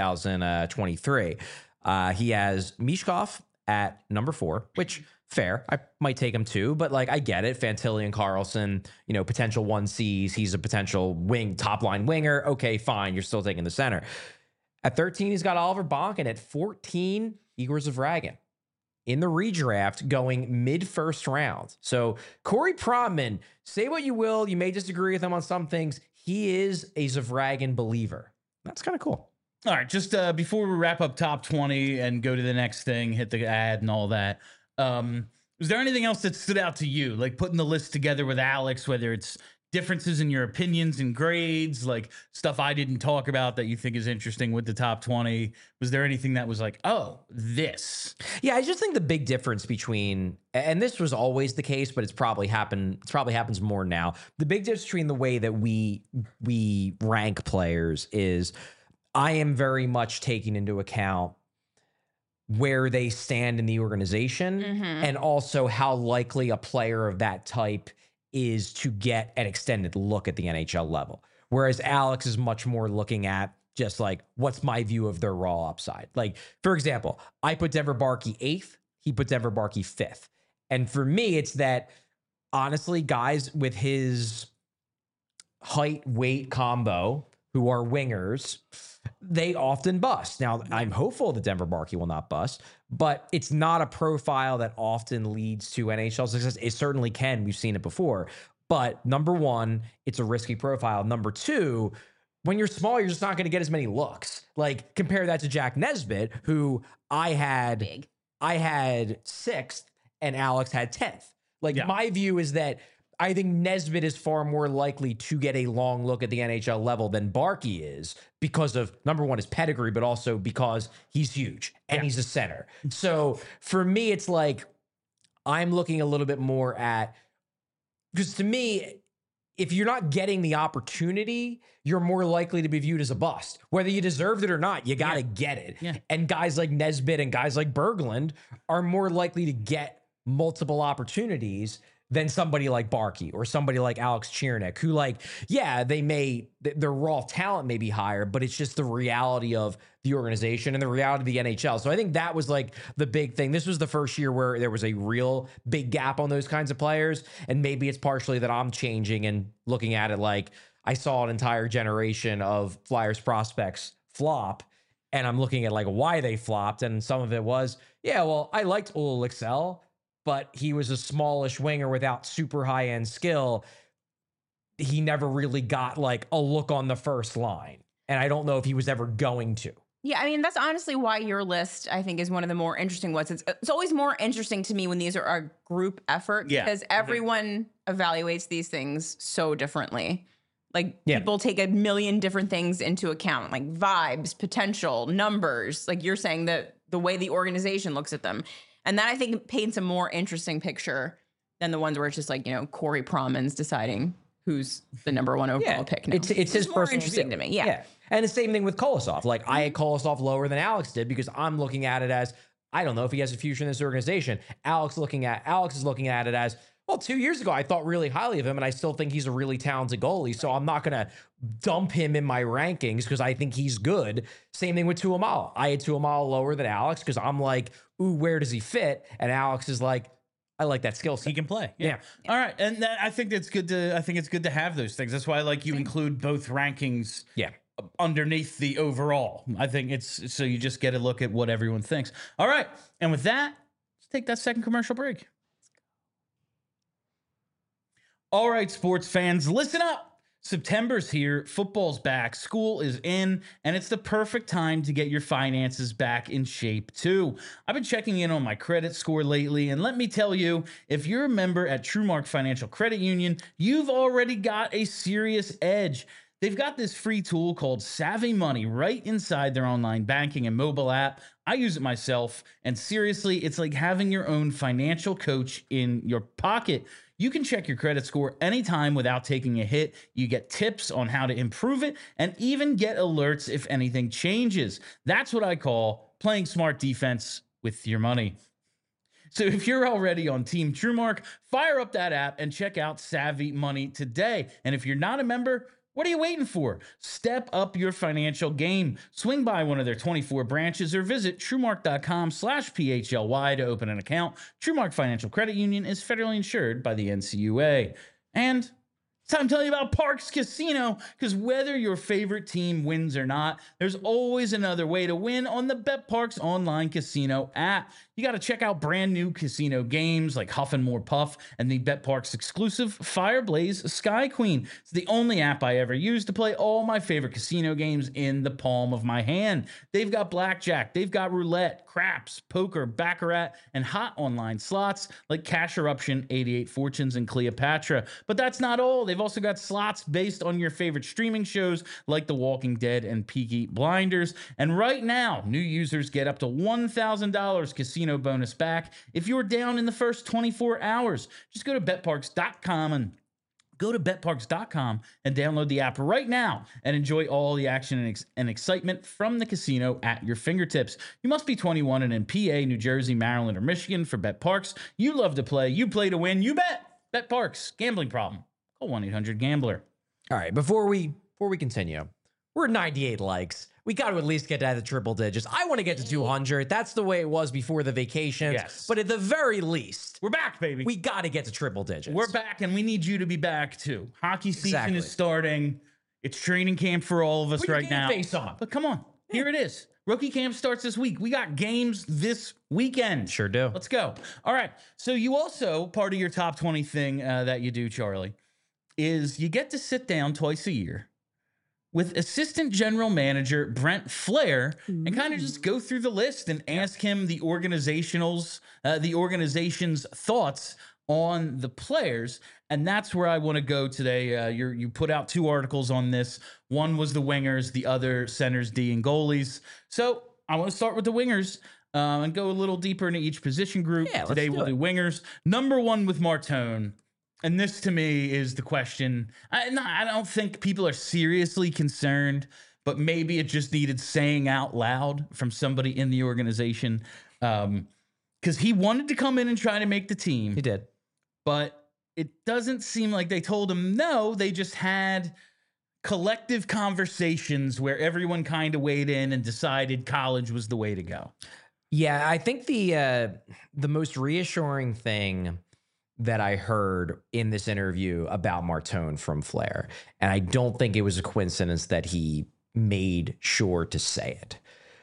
2023, he has Mishkov at number 4, which fair. I might take him too, but like, I get it. Fantilli and Carlson, potential 1Cs. He's a potential top line winger. Okay, fine. You're still taking the center. At 13, he's got Oliver Bonk, and at 14, Igor Zavragin. In the redraft, going mid-first round. So Corey Proman, say what you will, you may disagree with him on some things. He is a Zavragin believer. That's kind of cool. All right, just before we wrap up top 20 and go to the next thing, hit the ad and all that. Was there anything else that stood out to you, like putting the list together with Alex, whether it's differences in your opinions and grades, like stuff I didn't talk about that you think is interesting with the top 20? Was there anything that was like, oh, this? Yeah, I just think the big difference between, and this was always the case, but it probably happens more now. The big difference between the way that we rank players is I am very much taking into account where they stand in the organization and also how likely a player of that type is to get an extended look at the NHL level. Whereas Alex is much more looking at just like, what's my view of their raw upside? Like, for example, I put Denver Barkey 8th, he put Denver Barkey 5th. And for me, it's that, honestly, guys with his height weight combo who are wingers, they often bust. Now, I'm hopeful that Denver Barkey will not bust, but it's not a profile that often leads to NHL success. It certainly can. We've seen it before. But number one, it's a risky profile. Number two, when you're small, you're just not going to get as many looks. Like, compare that to Jack Nesbitt, who I had 6th and Alex had 10th. Like, my view is that I think Nesbitt is far more likely to get a long look at the NHL level than Barkey is because of, number one, his pedigree, but also because he's huge and he's a center. So for me, it's like I'm looking a little bit more at, because to me, if you're not getting the opportunity, you're more likely to be viewed as a bust. Whether you deserved it or not, you got to get it. Yeah. And guys like Nesbitt and guys like Berglund are more likely to get multiple opportunities than somebody like Barkey or somebody like Alex Chiernik, who, like, yeah, their raw talent may be higher, but it's just the reality of the organization and the reality of the NHL. So I think that was like the big thing. This was the first year where there was a real big gap on those kinds of players. And maybe it's partially that I'm changing and looking at it like I saw an entire generation of Flyers prospects flop, and I'm looking at like why they flopped. And some of it was, yeah, well, I liked Ola Lixell, but he was a smallish winger without super high-end skill. he never really got like a look on the first line. And I don't know if he was ever going to. Yeah, I mean, that's honestly why your list, I think, is one of the more interesting ones. It's always more interesting to me when these are a group effort Yeah. because everyone evaluates these things so differently. Like Yeah. people take a million different things into account, like vibes, potential, numbers. Like you're saying that the way the organization looks at them. And that I think paints a more interesting picture than the ones where it's just like, Corey Proman's deciding who's the number one overall pick now. It's his more personal interesting view. to me. Yeah. And the same thing with Kolosov. Like I had Kolosov lower than Alex did because I'm looking at it as, I don't know if he has a future in this organization. Alex is looking at it as, well, 2 years ago, I thought really highly of him, and I still think he's a really talented goalie. So I'm not going to dump him in my rankings because I think he's good. Same thing with Tuamala. I had Tuamala lower than Alex because I'm like, ooh, where does he fit? And Alex is like, I like that skill set. He can play. Yeah. All right, and I think it's good to. I think it's good to have those things. That's why I like you include both rankings. Yeah. Underneath the overall, I think it's so you just get a look at what everyone thinks. All right, and with that, let's take that second commercial break. All right, sports fans, listen up. September's here, football's back, school is in, and it's the perfect time to get your finances back in shape too. I've been checking in on my credit score lately, and let me tell you, if you're a member at TrueMark Financial Credit Union, you've already got a serious edge. They've got this free tool called Savvy Money right inside their online banking and mobile app. I use it myself, and seriously, it's like having your own financial coach in your pocket. You can check your credit score anytime without taking a hit. You get tips on how to improve it and even get alerts if anything changes. That's what I call playing smart defense with your money. So if you're already on Team TrueMark, fire up that app and check out Savvy Money today. And if you're not a member, what are you waiting for? Step up your financial game. Swing by one of their 24 branches or visit TrueMark.com/PHLY to open an account. TrueMark Financial Credit Union is federally insured by the NCUA. And it's time to tell you about Parx Casino, because whether your favorite team wins or not, there's always another way to win on the BetParx online casino app. You got to check out brand new casino games like Huff and More Puff and the BetParx exclusive Fireblaze Sky Queen. It's the only app I ever used to play all my favorite casino games in the palm of my hand. They've got blackjack, they've got roulette, craps, poker, baccarat, and hot online slots like Cash Eruption, 88 Fortunes, and Cleopatra. But that's not all. They've also got slots based on your favorite streaming shows like The Walking Dead and Peaky Blinders. And right now, new users get up to $1,000 casino bonus back if you're down in the first 24 hours. Just go to betparx.com and download the app right now and enjoy all the action and excitement from the casino at your fingertips. You must be 21 and in PA, New Jersey, Maryland, or Michigan for BetParx. You love to play. You play to win. You bet. BetParx. Gambling problem? Call 1-800-GAMBLER. All right, before we continue, we're 98 likes. We got to at least get to the triple digits. I want to get to 200. That's the way it was before the vacation. Yes. But at the very least, We're back, baby. we got to get to triple digits. We're back, and we need you to be back too. Hockey season Exactly. is starting. It's training camp for all of us Put your right game now. face on. But come on, here it is. Rookie camp starts this week. We got games this weekend. Sure do. Let's go. All right. So you also, part of your top 20 thing that you do, Charlie, is you get to sit down twice a year with assistant general manager Brent Flair and kind of just go through the list and ask him the organization's thoughts on the players. And that's where I want to go today. You put out 2 articles on this. One was the wingers, the other centers, D, and goalies. So I want to start with the wingers and go a little deeper into each position group. Yeah, let's Today do we'll it. do wingers. Number 1 with Martone. And this to me is the question. I don't think people are seriously concerned, but maybe it just needed saying out loud from somebody in the organization. Because he wanted to come in and try to make the team. He did. But it doesn't seem like they told him no. They just had collective conversations where everyone kind of weighed in and decided college was the way to go. Yeah, I think the most reassuring thing that I heard in this interview about Martone from Flair, and I don't think it was a coincidence that he made sure to say it,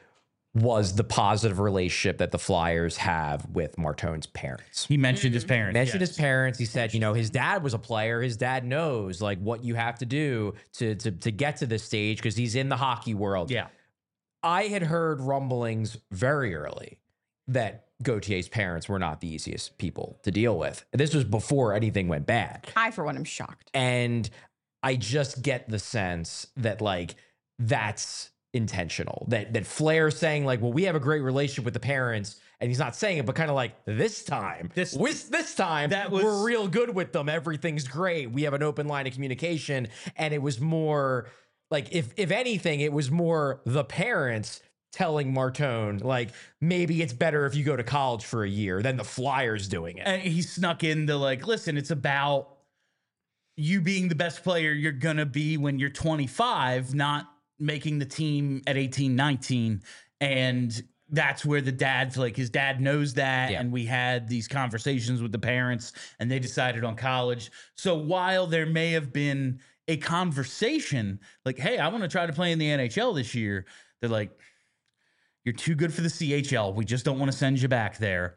was the positive relationship that the Flyers have with Martone's parents. He mentioned his parents. Mentioned yes. his parents. He said, you know, his dad was a player. His dad knows like what you have to do to get to this stage because he's in the hockey world. Yeah. I had heard rumblings very early that Gautier's parents were not the easiest people to deal with. This was before anything went bad. I, for one, am shocked. And I just get the sense that like that's intentional. That Flair saying like, well, we have a great relationship with the parents, and he's not saying it, but kind of like this time that was, we're real good with them. Everything's great. We have an open line of communication. And it was more like if anything, it was more the parents telling Martone, like, maybe it's better if you go to college for a year than the Flyers doing it. And he snuck into like, listen, it's about you being the best player you're going to be when you're 25, not making the team at 18, 19. And that's where the dad's like, his dad knows that. Yeah. And we had these conversations with the parents and they decided on college. So while there may have been a conversation like, hey, I want to try to play in the NHL this year, they're like, you're too good for the CHL. We just don't want to send you back there.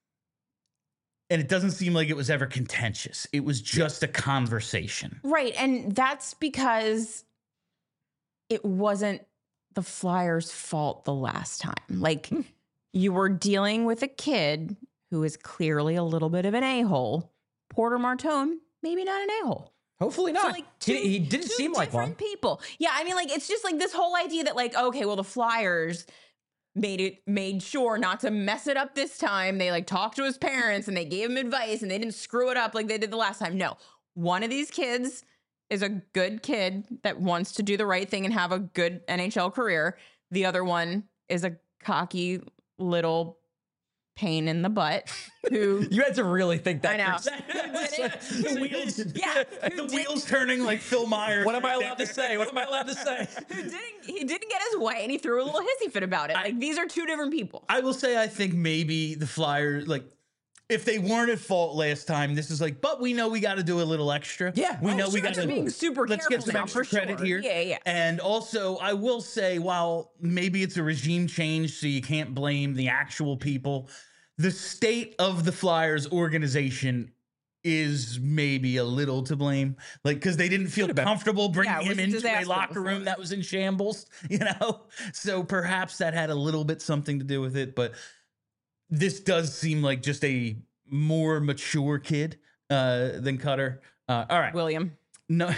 And it doesn't seem like it was ever contentious. It was just a conversation. Right. And that's because it wasn't the Flyers' fault the last time. Like, you were dealing with a kid who is clearly a little bit of an a-hole. Porter Martone, maybe not an a-hole. Hopefully not. So, like, He didn't two seem like one. different people. Yeah, I mean, like, it's just like this whole idea that, like, okay, well, the Flyers made sure not to mess it up this time. They like talked to his parents and they gave him advice and they didn't screw it up like they did the last time. No, one of these kids is a good kid that wants to do the right thing and have a good NHL career. The other one is a cocky little pain in the butt who You had to really think that. I know. for a second. The wheels, yeah, the wheels turning like Phil Myers. What am I allowed to say? What am I allowed to say? he didn't get his way and he threw a little hissy fit about it. Like, these are two different people. I will say, I think maybe the Flyers, like, if they weren't at fault last time, this is like, but we know we got to do a little extra. Yeah. we know Sure, we got they're to being super let's careful get some now, extra for credit sure. here. Yeah. And also, I will say, while maybe it's a regime change, so you can't blame the actual people, the state of the Flyers organization is maybe a little to blame, like, because they didn't feel comfortable bringing Yeah, it was him a into a disaster locker before. room that was in shambles, you know. So perhaps that had a little bit something to do with it, but this does seem like just a more mature kid than Cutter. All right, William. no.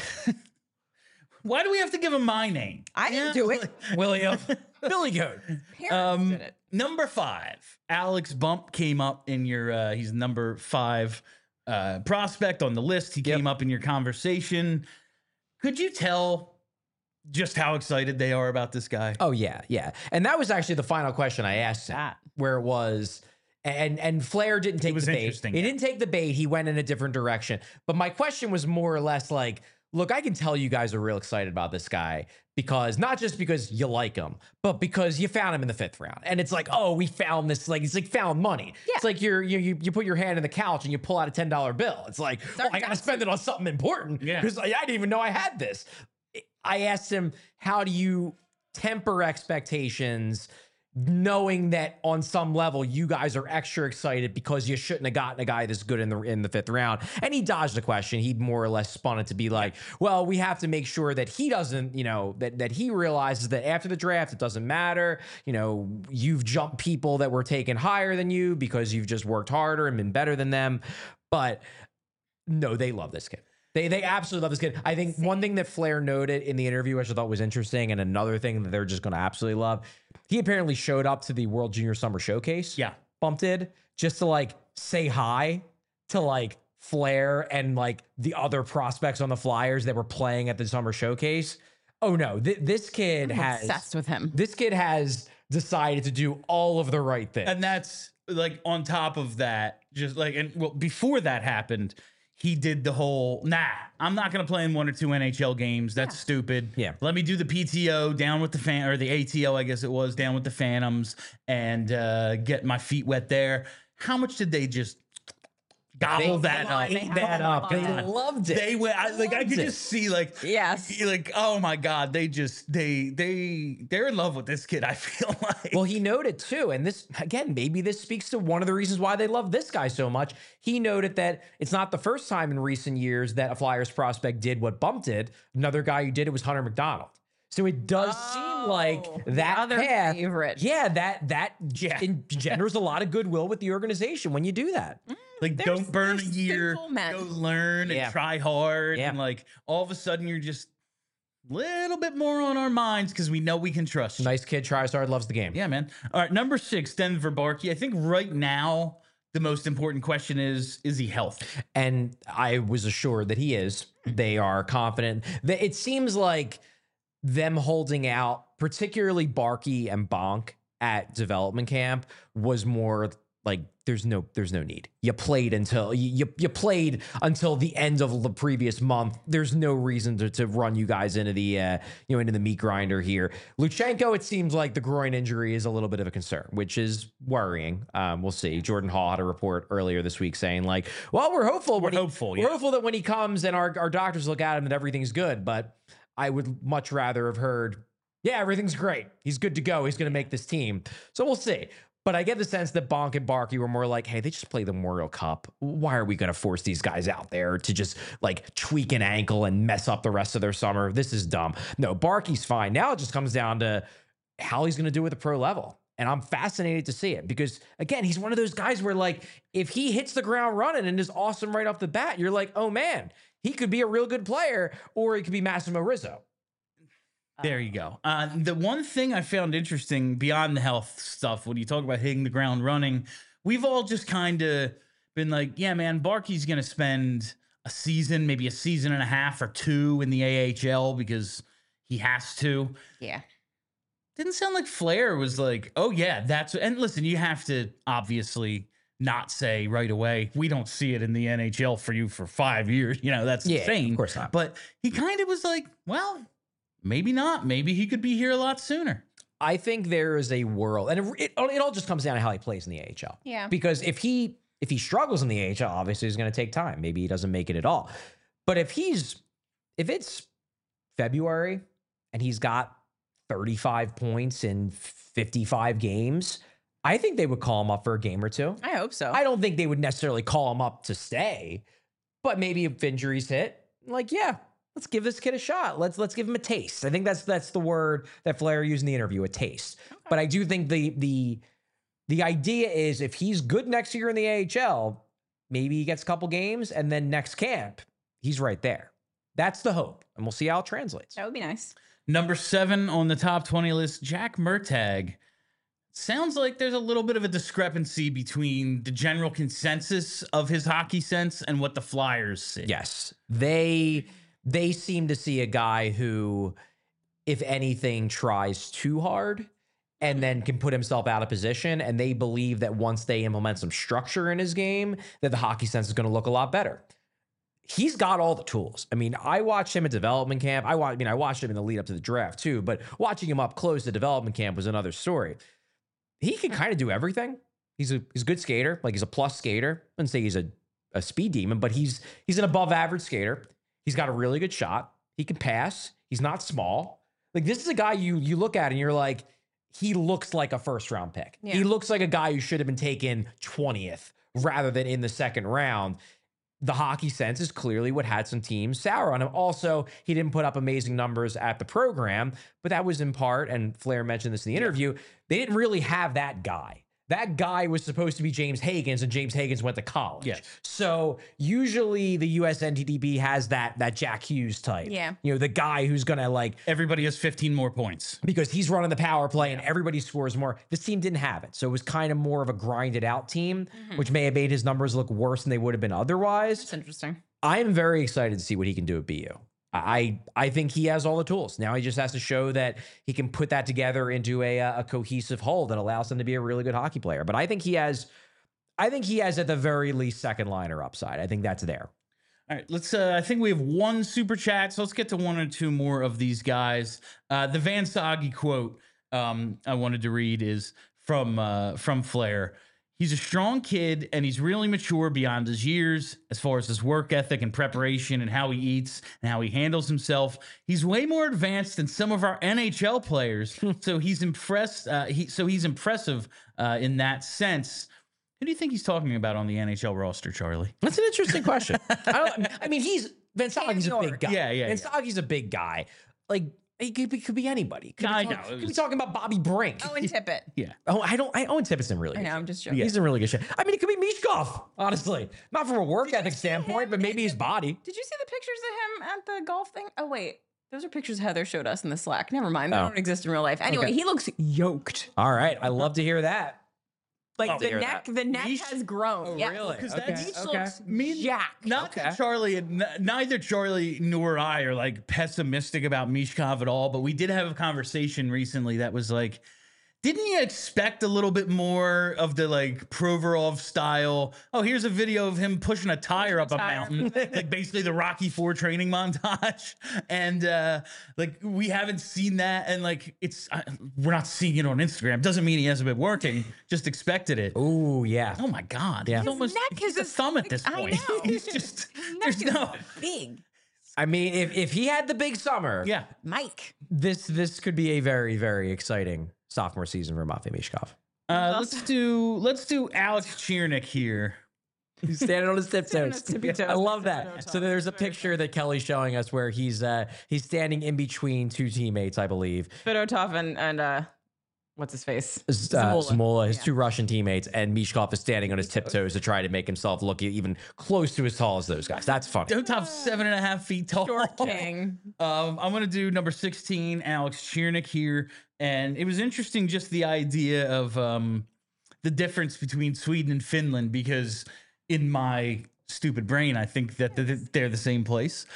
Why do we have to give him my name? I didn't do it. William. Billy Goat. Parents did it. Number 5, Alex Bump came up in your. He's number 5 prospect on the list. He came up in your conversation. Could you tell just how excited they are about this guy? Oh yeah, yeah. And that was actually the final question I asked him, That. where it was, and Flair didn't take was the bait. interesting, He yeah. didn't take the bait. He went in a different direction. But my question was more or less like, look, I can tell you guys are real excited about this guy because not just because you like him, but because you found him in the 5th round. And it's like, oh, we found this, like, it's like found money. Yeah. It's like you put your hand in the couch and you pull out a $10 bill. It's like, oh, I got to spend it on something important Yeah. because I didn't even know I had this. I asked him, how do you temper expectations knowing that on some level you guys are extra excited because you shouldn't have gotten a guy this good in the 5th round? And he dodged the question. He more or less spun it to be like, well, we have to make sure that he doesn't, you know, that he realizes that after the draft it doesn't matter. You know, you've jumped people that were taken higher than you because you've just worked harder and been better than them. But no, they love this kid. They absolutely love this kid. I think one thing that Flair noted in the interview, which I thought was interesting, and another thing that they're just going to absolutely love, he apparently showed up to the World Junior Summer Showcase. Yeah. Bump did, just to like say hi to like Flair and like the other prospects on the Flyers that were playing at the Summer Showcase. Oh no, this kid I'm has obsessed with him. This kid has decided to do all of the right things. And that's like on top of that, just like, and well, before that happened, he did the whole, nah, I'm not going to play in 1 or 2 NHL games. That's stupid. Yeah. Let me do the PTO down with the or the ATO, I guess it was, down with the Phantoms and get my feet wet there. How much did they just gobble that up. They ate that up. They that. loved it. They went. I could loved it. just see like, Yes. oh my god, they're in love with this kid. I feel like. Well, he noted too, and this again, maybe this speaks to one of the reasons why they love this guy so much. He noted that it's not the first time in recent years that a Flyers prospect did what Bump did. Another guy who did it was Hunter McDonald. So it does seem like the that other path, favorite. yeah, that engenders a lot of goodwill with the organization when you do that. Like, They're- don't burn a they're year, simple men. go learn Yeah. and try hard. Yeah. And like, all of a sudden, you're just a little bit more on our minds because we know we can trust you. Nice kid, tries hard, loves the game. Yeah, man. All right, number 6, Denver Barkey. I think right now, the most important question is he healthy? And I was assured that he is. They are confident. It seems like them holding out, particularly Barkey and Bonk at development camp, was more like there's no need. You played until you played until the end of the previous month. There's no reason to run you guys into the into the meat grinder here. Luchenko, it seems like the groin injury is a little bit of a concern, which is worrying. We'll see. Jordan Hall had a report earlier this week saying like, well, we're hopeful. We're hopeful that when he comes and our doctors look at him that everything's good. But I would much rather have heard, yeah, everything's great. He's good to go. He's going to make this team. So we'll see. But I get the sense that Bonk and Barkey were more like, hey, they just played the Memorial Cup. Why are we going to force these guys out there to just like tweak an ankle and mess up the rest of their summer? This is dumb. No, Barkey's fine. Now it just comes down to how he's going to do at the pro level. And I'm fascinated to see it because, again, he's one of those guys where, like, if he hits the ground running and is awesome right off the bat, you're like, oh, man, he could be a real good player, or he could be Massimo Rizzo. There you go. The one thing I found interesting beyond the health stuff, when you talk about hitting the ground running, we've all just kind of been like, yeah, man, Barkey's going to spend a season, maybe a season and a half or 2 in the AHL because he has to. Yeah. Didn't sound like Flair was like, oh, yeah, that's... And listen, you have to obviously not say right away, we don't see it in the NHL for you for 5 years. You know, that's insane. Of course not. But he kind of was like, well... Maybe not. Maybe he could be here a lot sooner. I think there is a world, and it all just comes down to how he plays in the AHL. Yeah. Because if he struggles in the AHL, obviously it's going to take time. Maybe he doesn't make it at all. But if it's February and he's got 35 points in 55 games, I think they would call him up for a game or 2. I hope so. I don't think they would necessarily call him up to stay, but maybe if injuries hit, like, yeah, let's give this kid a shot. Let's give him a taste. I think that's the word that Flair used in the interview, a taste. Okay. But I do think the idea is if he's good next year in the AHL, maybe he gets a couple games, and then next camp, he's right there. That's the hope, and we'll see how it translates. That would be nice. Number 7 on the top 20 list, Jack Murtagh. Sounds like there's a little bit of a discrepancy between the general consensus of his hockey sense and what the Flyers see. Yes, they seem to see a guy who, if anything, tries too hard and then can put himself out of position. And they believe that once they implement some structure in his game, that the hockey sense is going to look a lot better. He's got all the tools. I mean, I watched him at development camp. I watched him in the lead up to the draft too, but watching him up close at development camp was another story. He can kind of do everything. He's a good skater. Like, he's a plus skater. I wouldn't say he's a speed demon, but he's an above average skater. He's got a really good shot. He can pass. He's not small. Like, this is a guy you look at and you're like, he looks like a first round pick. Yeah. He looks like a guy who should have been taken 20th rather than in the second round. The hockey sense is clearly what had some teams sour on him. Also, he didn't put up amazing numbers at the program, but that was in part, and Flair mentioned this in the interview, they didn't really have that guy. That guy was supposed to be James Higgins, and James Higgins went to college. Yes. So usually the US NTDP has that Jack Hughes type. Yeah. You know, the guy who's going to, like... Everybody has 15 more points. Because he's running the power play and everybody scores more. This team didn't have it. So it was kind of more of a grinded out team, which may have made his numbers look worse than they would have been otherwise. That's interesting. I am very excited to see what he can do at BU. I think he has all the tools. Now he just has to show that he can put that together into a cohesive whole that allows him to be a really good hockey player. But I think he has at the very least second liner upside. I think that's there. All right, let's. I think we have one super chat, so let's get to 1 or 2 more of these guys. The Van Sagi quote I wanted to read is from Flair. He's a strong kid and he's really mature beyond his years as far as his work ethic and preparation and how he eats and how he handles himself. He's way more advanced than some of our NHL players. So he's he's impressive in that sense. Who do you think he's talking about on the NHL roster, Charlie? That's an interesting question. I mean, Vansagi's a big guy. Yeah. Vansagi's a big guy. Like, he could be anybody. Could be talking about Bobby Brink. Oh, and Tippett. Yeah. Owen Tippett's in really good shape. I'm just joking. He's in really good shape. I mean, it could be Mishkov, honestly. Not from a work ethic standpoint, but maybe his body. Did you see the pictures of him at the golf thing? Oh, wait. Those are pictures Heather showed us in the Slack. Never mind. They don't exist in real life. Anyway, he looks yoked. All right. I love to hear that. Like the neck has grown. Oh, yeah. really? Because Okay. that looks jacked. Not that Charlie, neither Charlie nor I are like pessimistic about Mishkov at all, but we did have a conversation recently that was like, didn't you expect a little bit more of the like Provorov style? Oh, here's a video of him pushing a tire up a mountain, like basically the Rocky IV training montage. And like we haven't seen that, and like we're not seeing it on Instagram. Doesn't mean he hasn't been working. Just expected it. Oh yeah. Oh my God! Yeah. He's almost he's a thumb at this I point. know. He's just there's no. Big. I mean, if he had the big summer, Yeah. Mike. this could be a very, very exciting sophomore season for Matvei Mishkov. Let's do Alex Chiernik here. He's standing on his tiptoes. tippy toes. I love that. So there's a picture that Kelly's showing us where he's standing in between two teammates, I believe. Fedotov and what's his face? Zamola, his two Russian teammates, and Mishkov is standing on his tiptoes to try to make himself look even close to as tall as those guys. That's funny. Top 7.5 feet tall. Short king. I'm gonna do number 16, Alex Chiernik here, and it was interesting just the idea of the difference between Sweden and Finland, because in my stupid brain I think that they're the same place,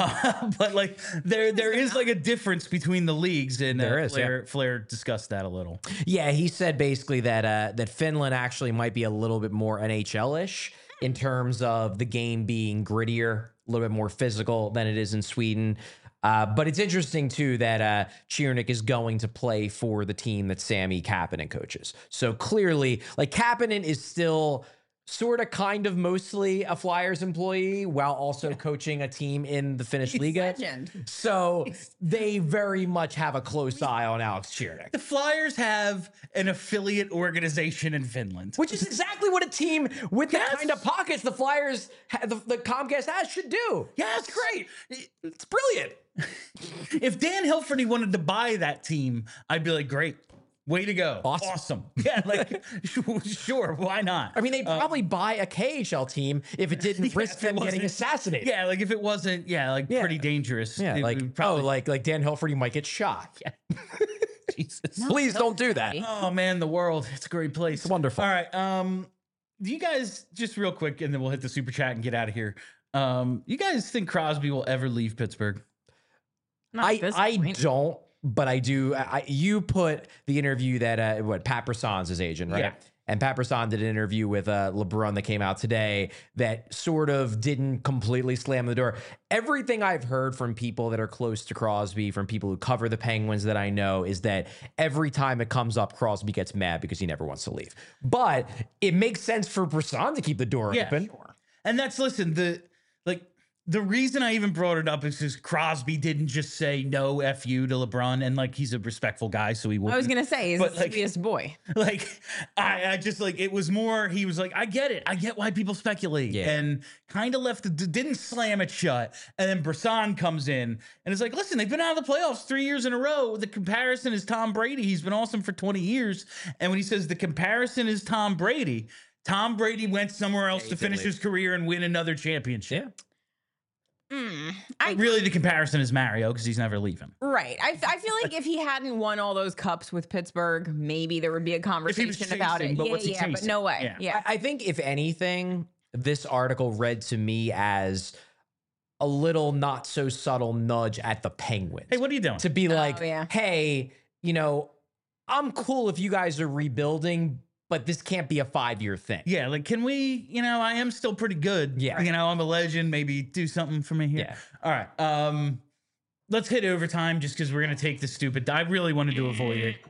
but like there is like a difference between the leagues, and There is, Flair discussed that a little. Yeah, he said basically that Finland actually might be a little bit more NHL-ish in terms of the game being grittier, a little bit more physical than it is in Sweden. But it's interesting, too, that Chiernik is going to play for the team that Sami Kapanen coaches. So clearly, like, Kapanen is still sort of kind of mostly a Flyers employee while also coaching a team in the Finnish Liga. Legend. So they very much have a close eye on Alex Chiernik. The Flyers have an affiliate organization in Finland, Which is exactly what a team with the kind of pockets the Flyers, the Comcast has, should do. Yeah, It's great. It's brilliant. If Dan Hilferty wanted to buy that team, I'd be like, great. Way to go. Awesome. Yeah, like, sure, why not? I mean, they'd probably buy a KHL team if it didn't risk them getting wasn't- assassinated. Yeah, like if it wasn't, pretty dangerous. Yeah, it like, would probably, like Dan Hilferty might get shot. Jesus. Please don't do that. Oh man, the world. It's a great place. It's wonderful. All right. Do you guys, just real quick, and then we'll hit the super chat and get out of here. You guys think Crosby will ever leave Pittsburgh? Not at this I point. don't, but I do. You put the interview that Pat Brisson's his agent, right? Yeah. And Pat Brisson did an interview with LeBron that came out today that sort of didn't completely slam the door. Everything I've heard from people that are close to Crosby, from people who cover the Penguins that I know, is that every time it comes up, Crosby gets mad because he never wants to leave. But it makes sense for Brisson to keep the door open. Sure. And that's, listen, the reason I even brought it up is because Crosby didn't just say no F you to LeBron, and like he's a respectful guy, so he wouldn't. I was gonna say he's But, the like- sweetest boy. Like I just like, it was more, he was like, I get it, I get why people speculate, Yeah. and kind of didn't slam it shut. And then Brisson comes in and it's like, listen, they've been out of the playoffs 3 years in a row. The comparison is Tom Brady. He's been awesome for 20 years. And when he says the comparison is Tom Brady went somewhere else to finish his career and win another championship. I Really, the comparison is Mario, because he's never leaving. Right. I feel like if he hadn't won all those cups with Pittsburgh, maybe there would be a conversation about chasing, it. but what's he But chasing? no way. Yeah. I think if anything, this article read to me as a little not so subtle nudge at the Penguins. Hey, what are you doing? To be like, yeah. hey, I'm cool if you guys are rebuilding, but this can't be a 5-year thing. Yeah, like, can we, I am still pretty good. Yeah. I'm a legend. Maybe do something for me here. Yeah. All right. Let's hit overtime just because we're going to take the stupid. I really wanted to avoid it.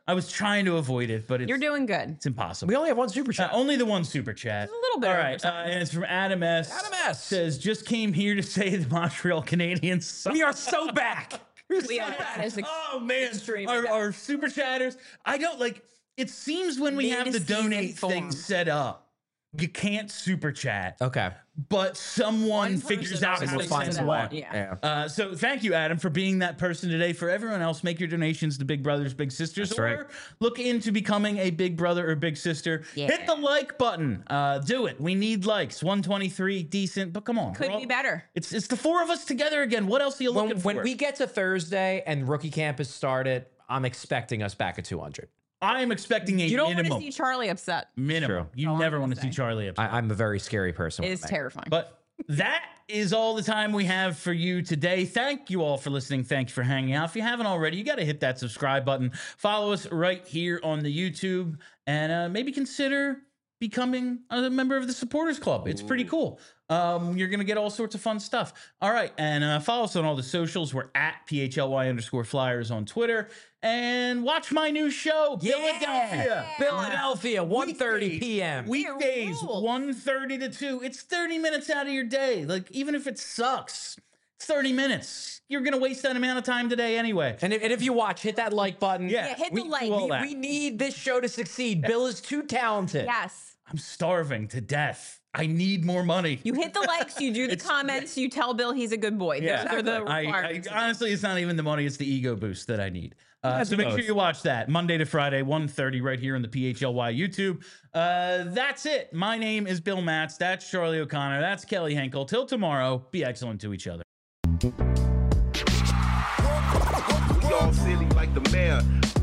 I was trying to avoid it, but You're doing good. it's impossible. We only have one super chat. Only the one super chat. A little bit. All over right, time. and it's from Adam S. Adam S. Says, just came here to say the Montreal Canadiens suck. We are so back. We're We so are. back. That is Oh man, extreme. our super chatters. I don't like. It seems when we have the Mid-season donate thing form. set up, you can't super chat, Okay. but someone One figures person out knows how We'll to find send someone. one. Yeah. So thank you, Adam, for being that person today. For everyone else, make your donations to Big Brothers Big Sisters, That's or right. look into becoming a big brother or big sister. Yeah. Hit the like button. Do it. We need likes. 123, decent, but come on. Could we're all- be better. It's the four of us together again. What else are you looking for? When we get to Thursday and rookie camp has started, I'm expecting us back at 200. I am expecting a You don't want to minimum. see Charlie upset. Minimum. True. You Oh, I'm never gonna want to see say. Charlie upset. I'm a very scary person. It with is me. terrifying. But that is all the time we have for you today. Thank you all for listening. Thank you for hanging out. If you haven't already, you got to hit that subscribe button. Follow us right here on the YouTube, and maybe consider becoming a member of the supporters club. It's pretty cool. You're going to get all sorts of fun stuff. All right. And follow us on all the socials. We're at PHLY_Flyers on Twitter. And watch my new show, Philadelphia. Philadelphia, 1:30 Weekdays. p.m. Weekdays, rule. 1:30 to 2. It's 30 minutes out of your day. Like, even if it sucks, it's 30 minutes. You're going to waste that amount of time today anyway. And if you watch, hit that like button. Yeah, hit we the do like. all that. We need this show to succeed. Bill is too talented. Yes. I'm starving to death. I need more money. You hit the likes, you do the comments, you tell Bill he's a good boy. Yeah. Those are the I requirements. honestly, it's not even the money; it's the ego boost that I need. So make sure both. you watch that Monday to Friday, 1:30, right here on the PHLY YouTube. That's it. My name is Bill Matz. That's Charlie O'Connor. That's Kelly Henkel. Till tomorrow, be excellent to each other. We all silly like the mayor.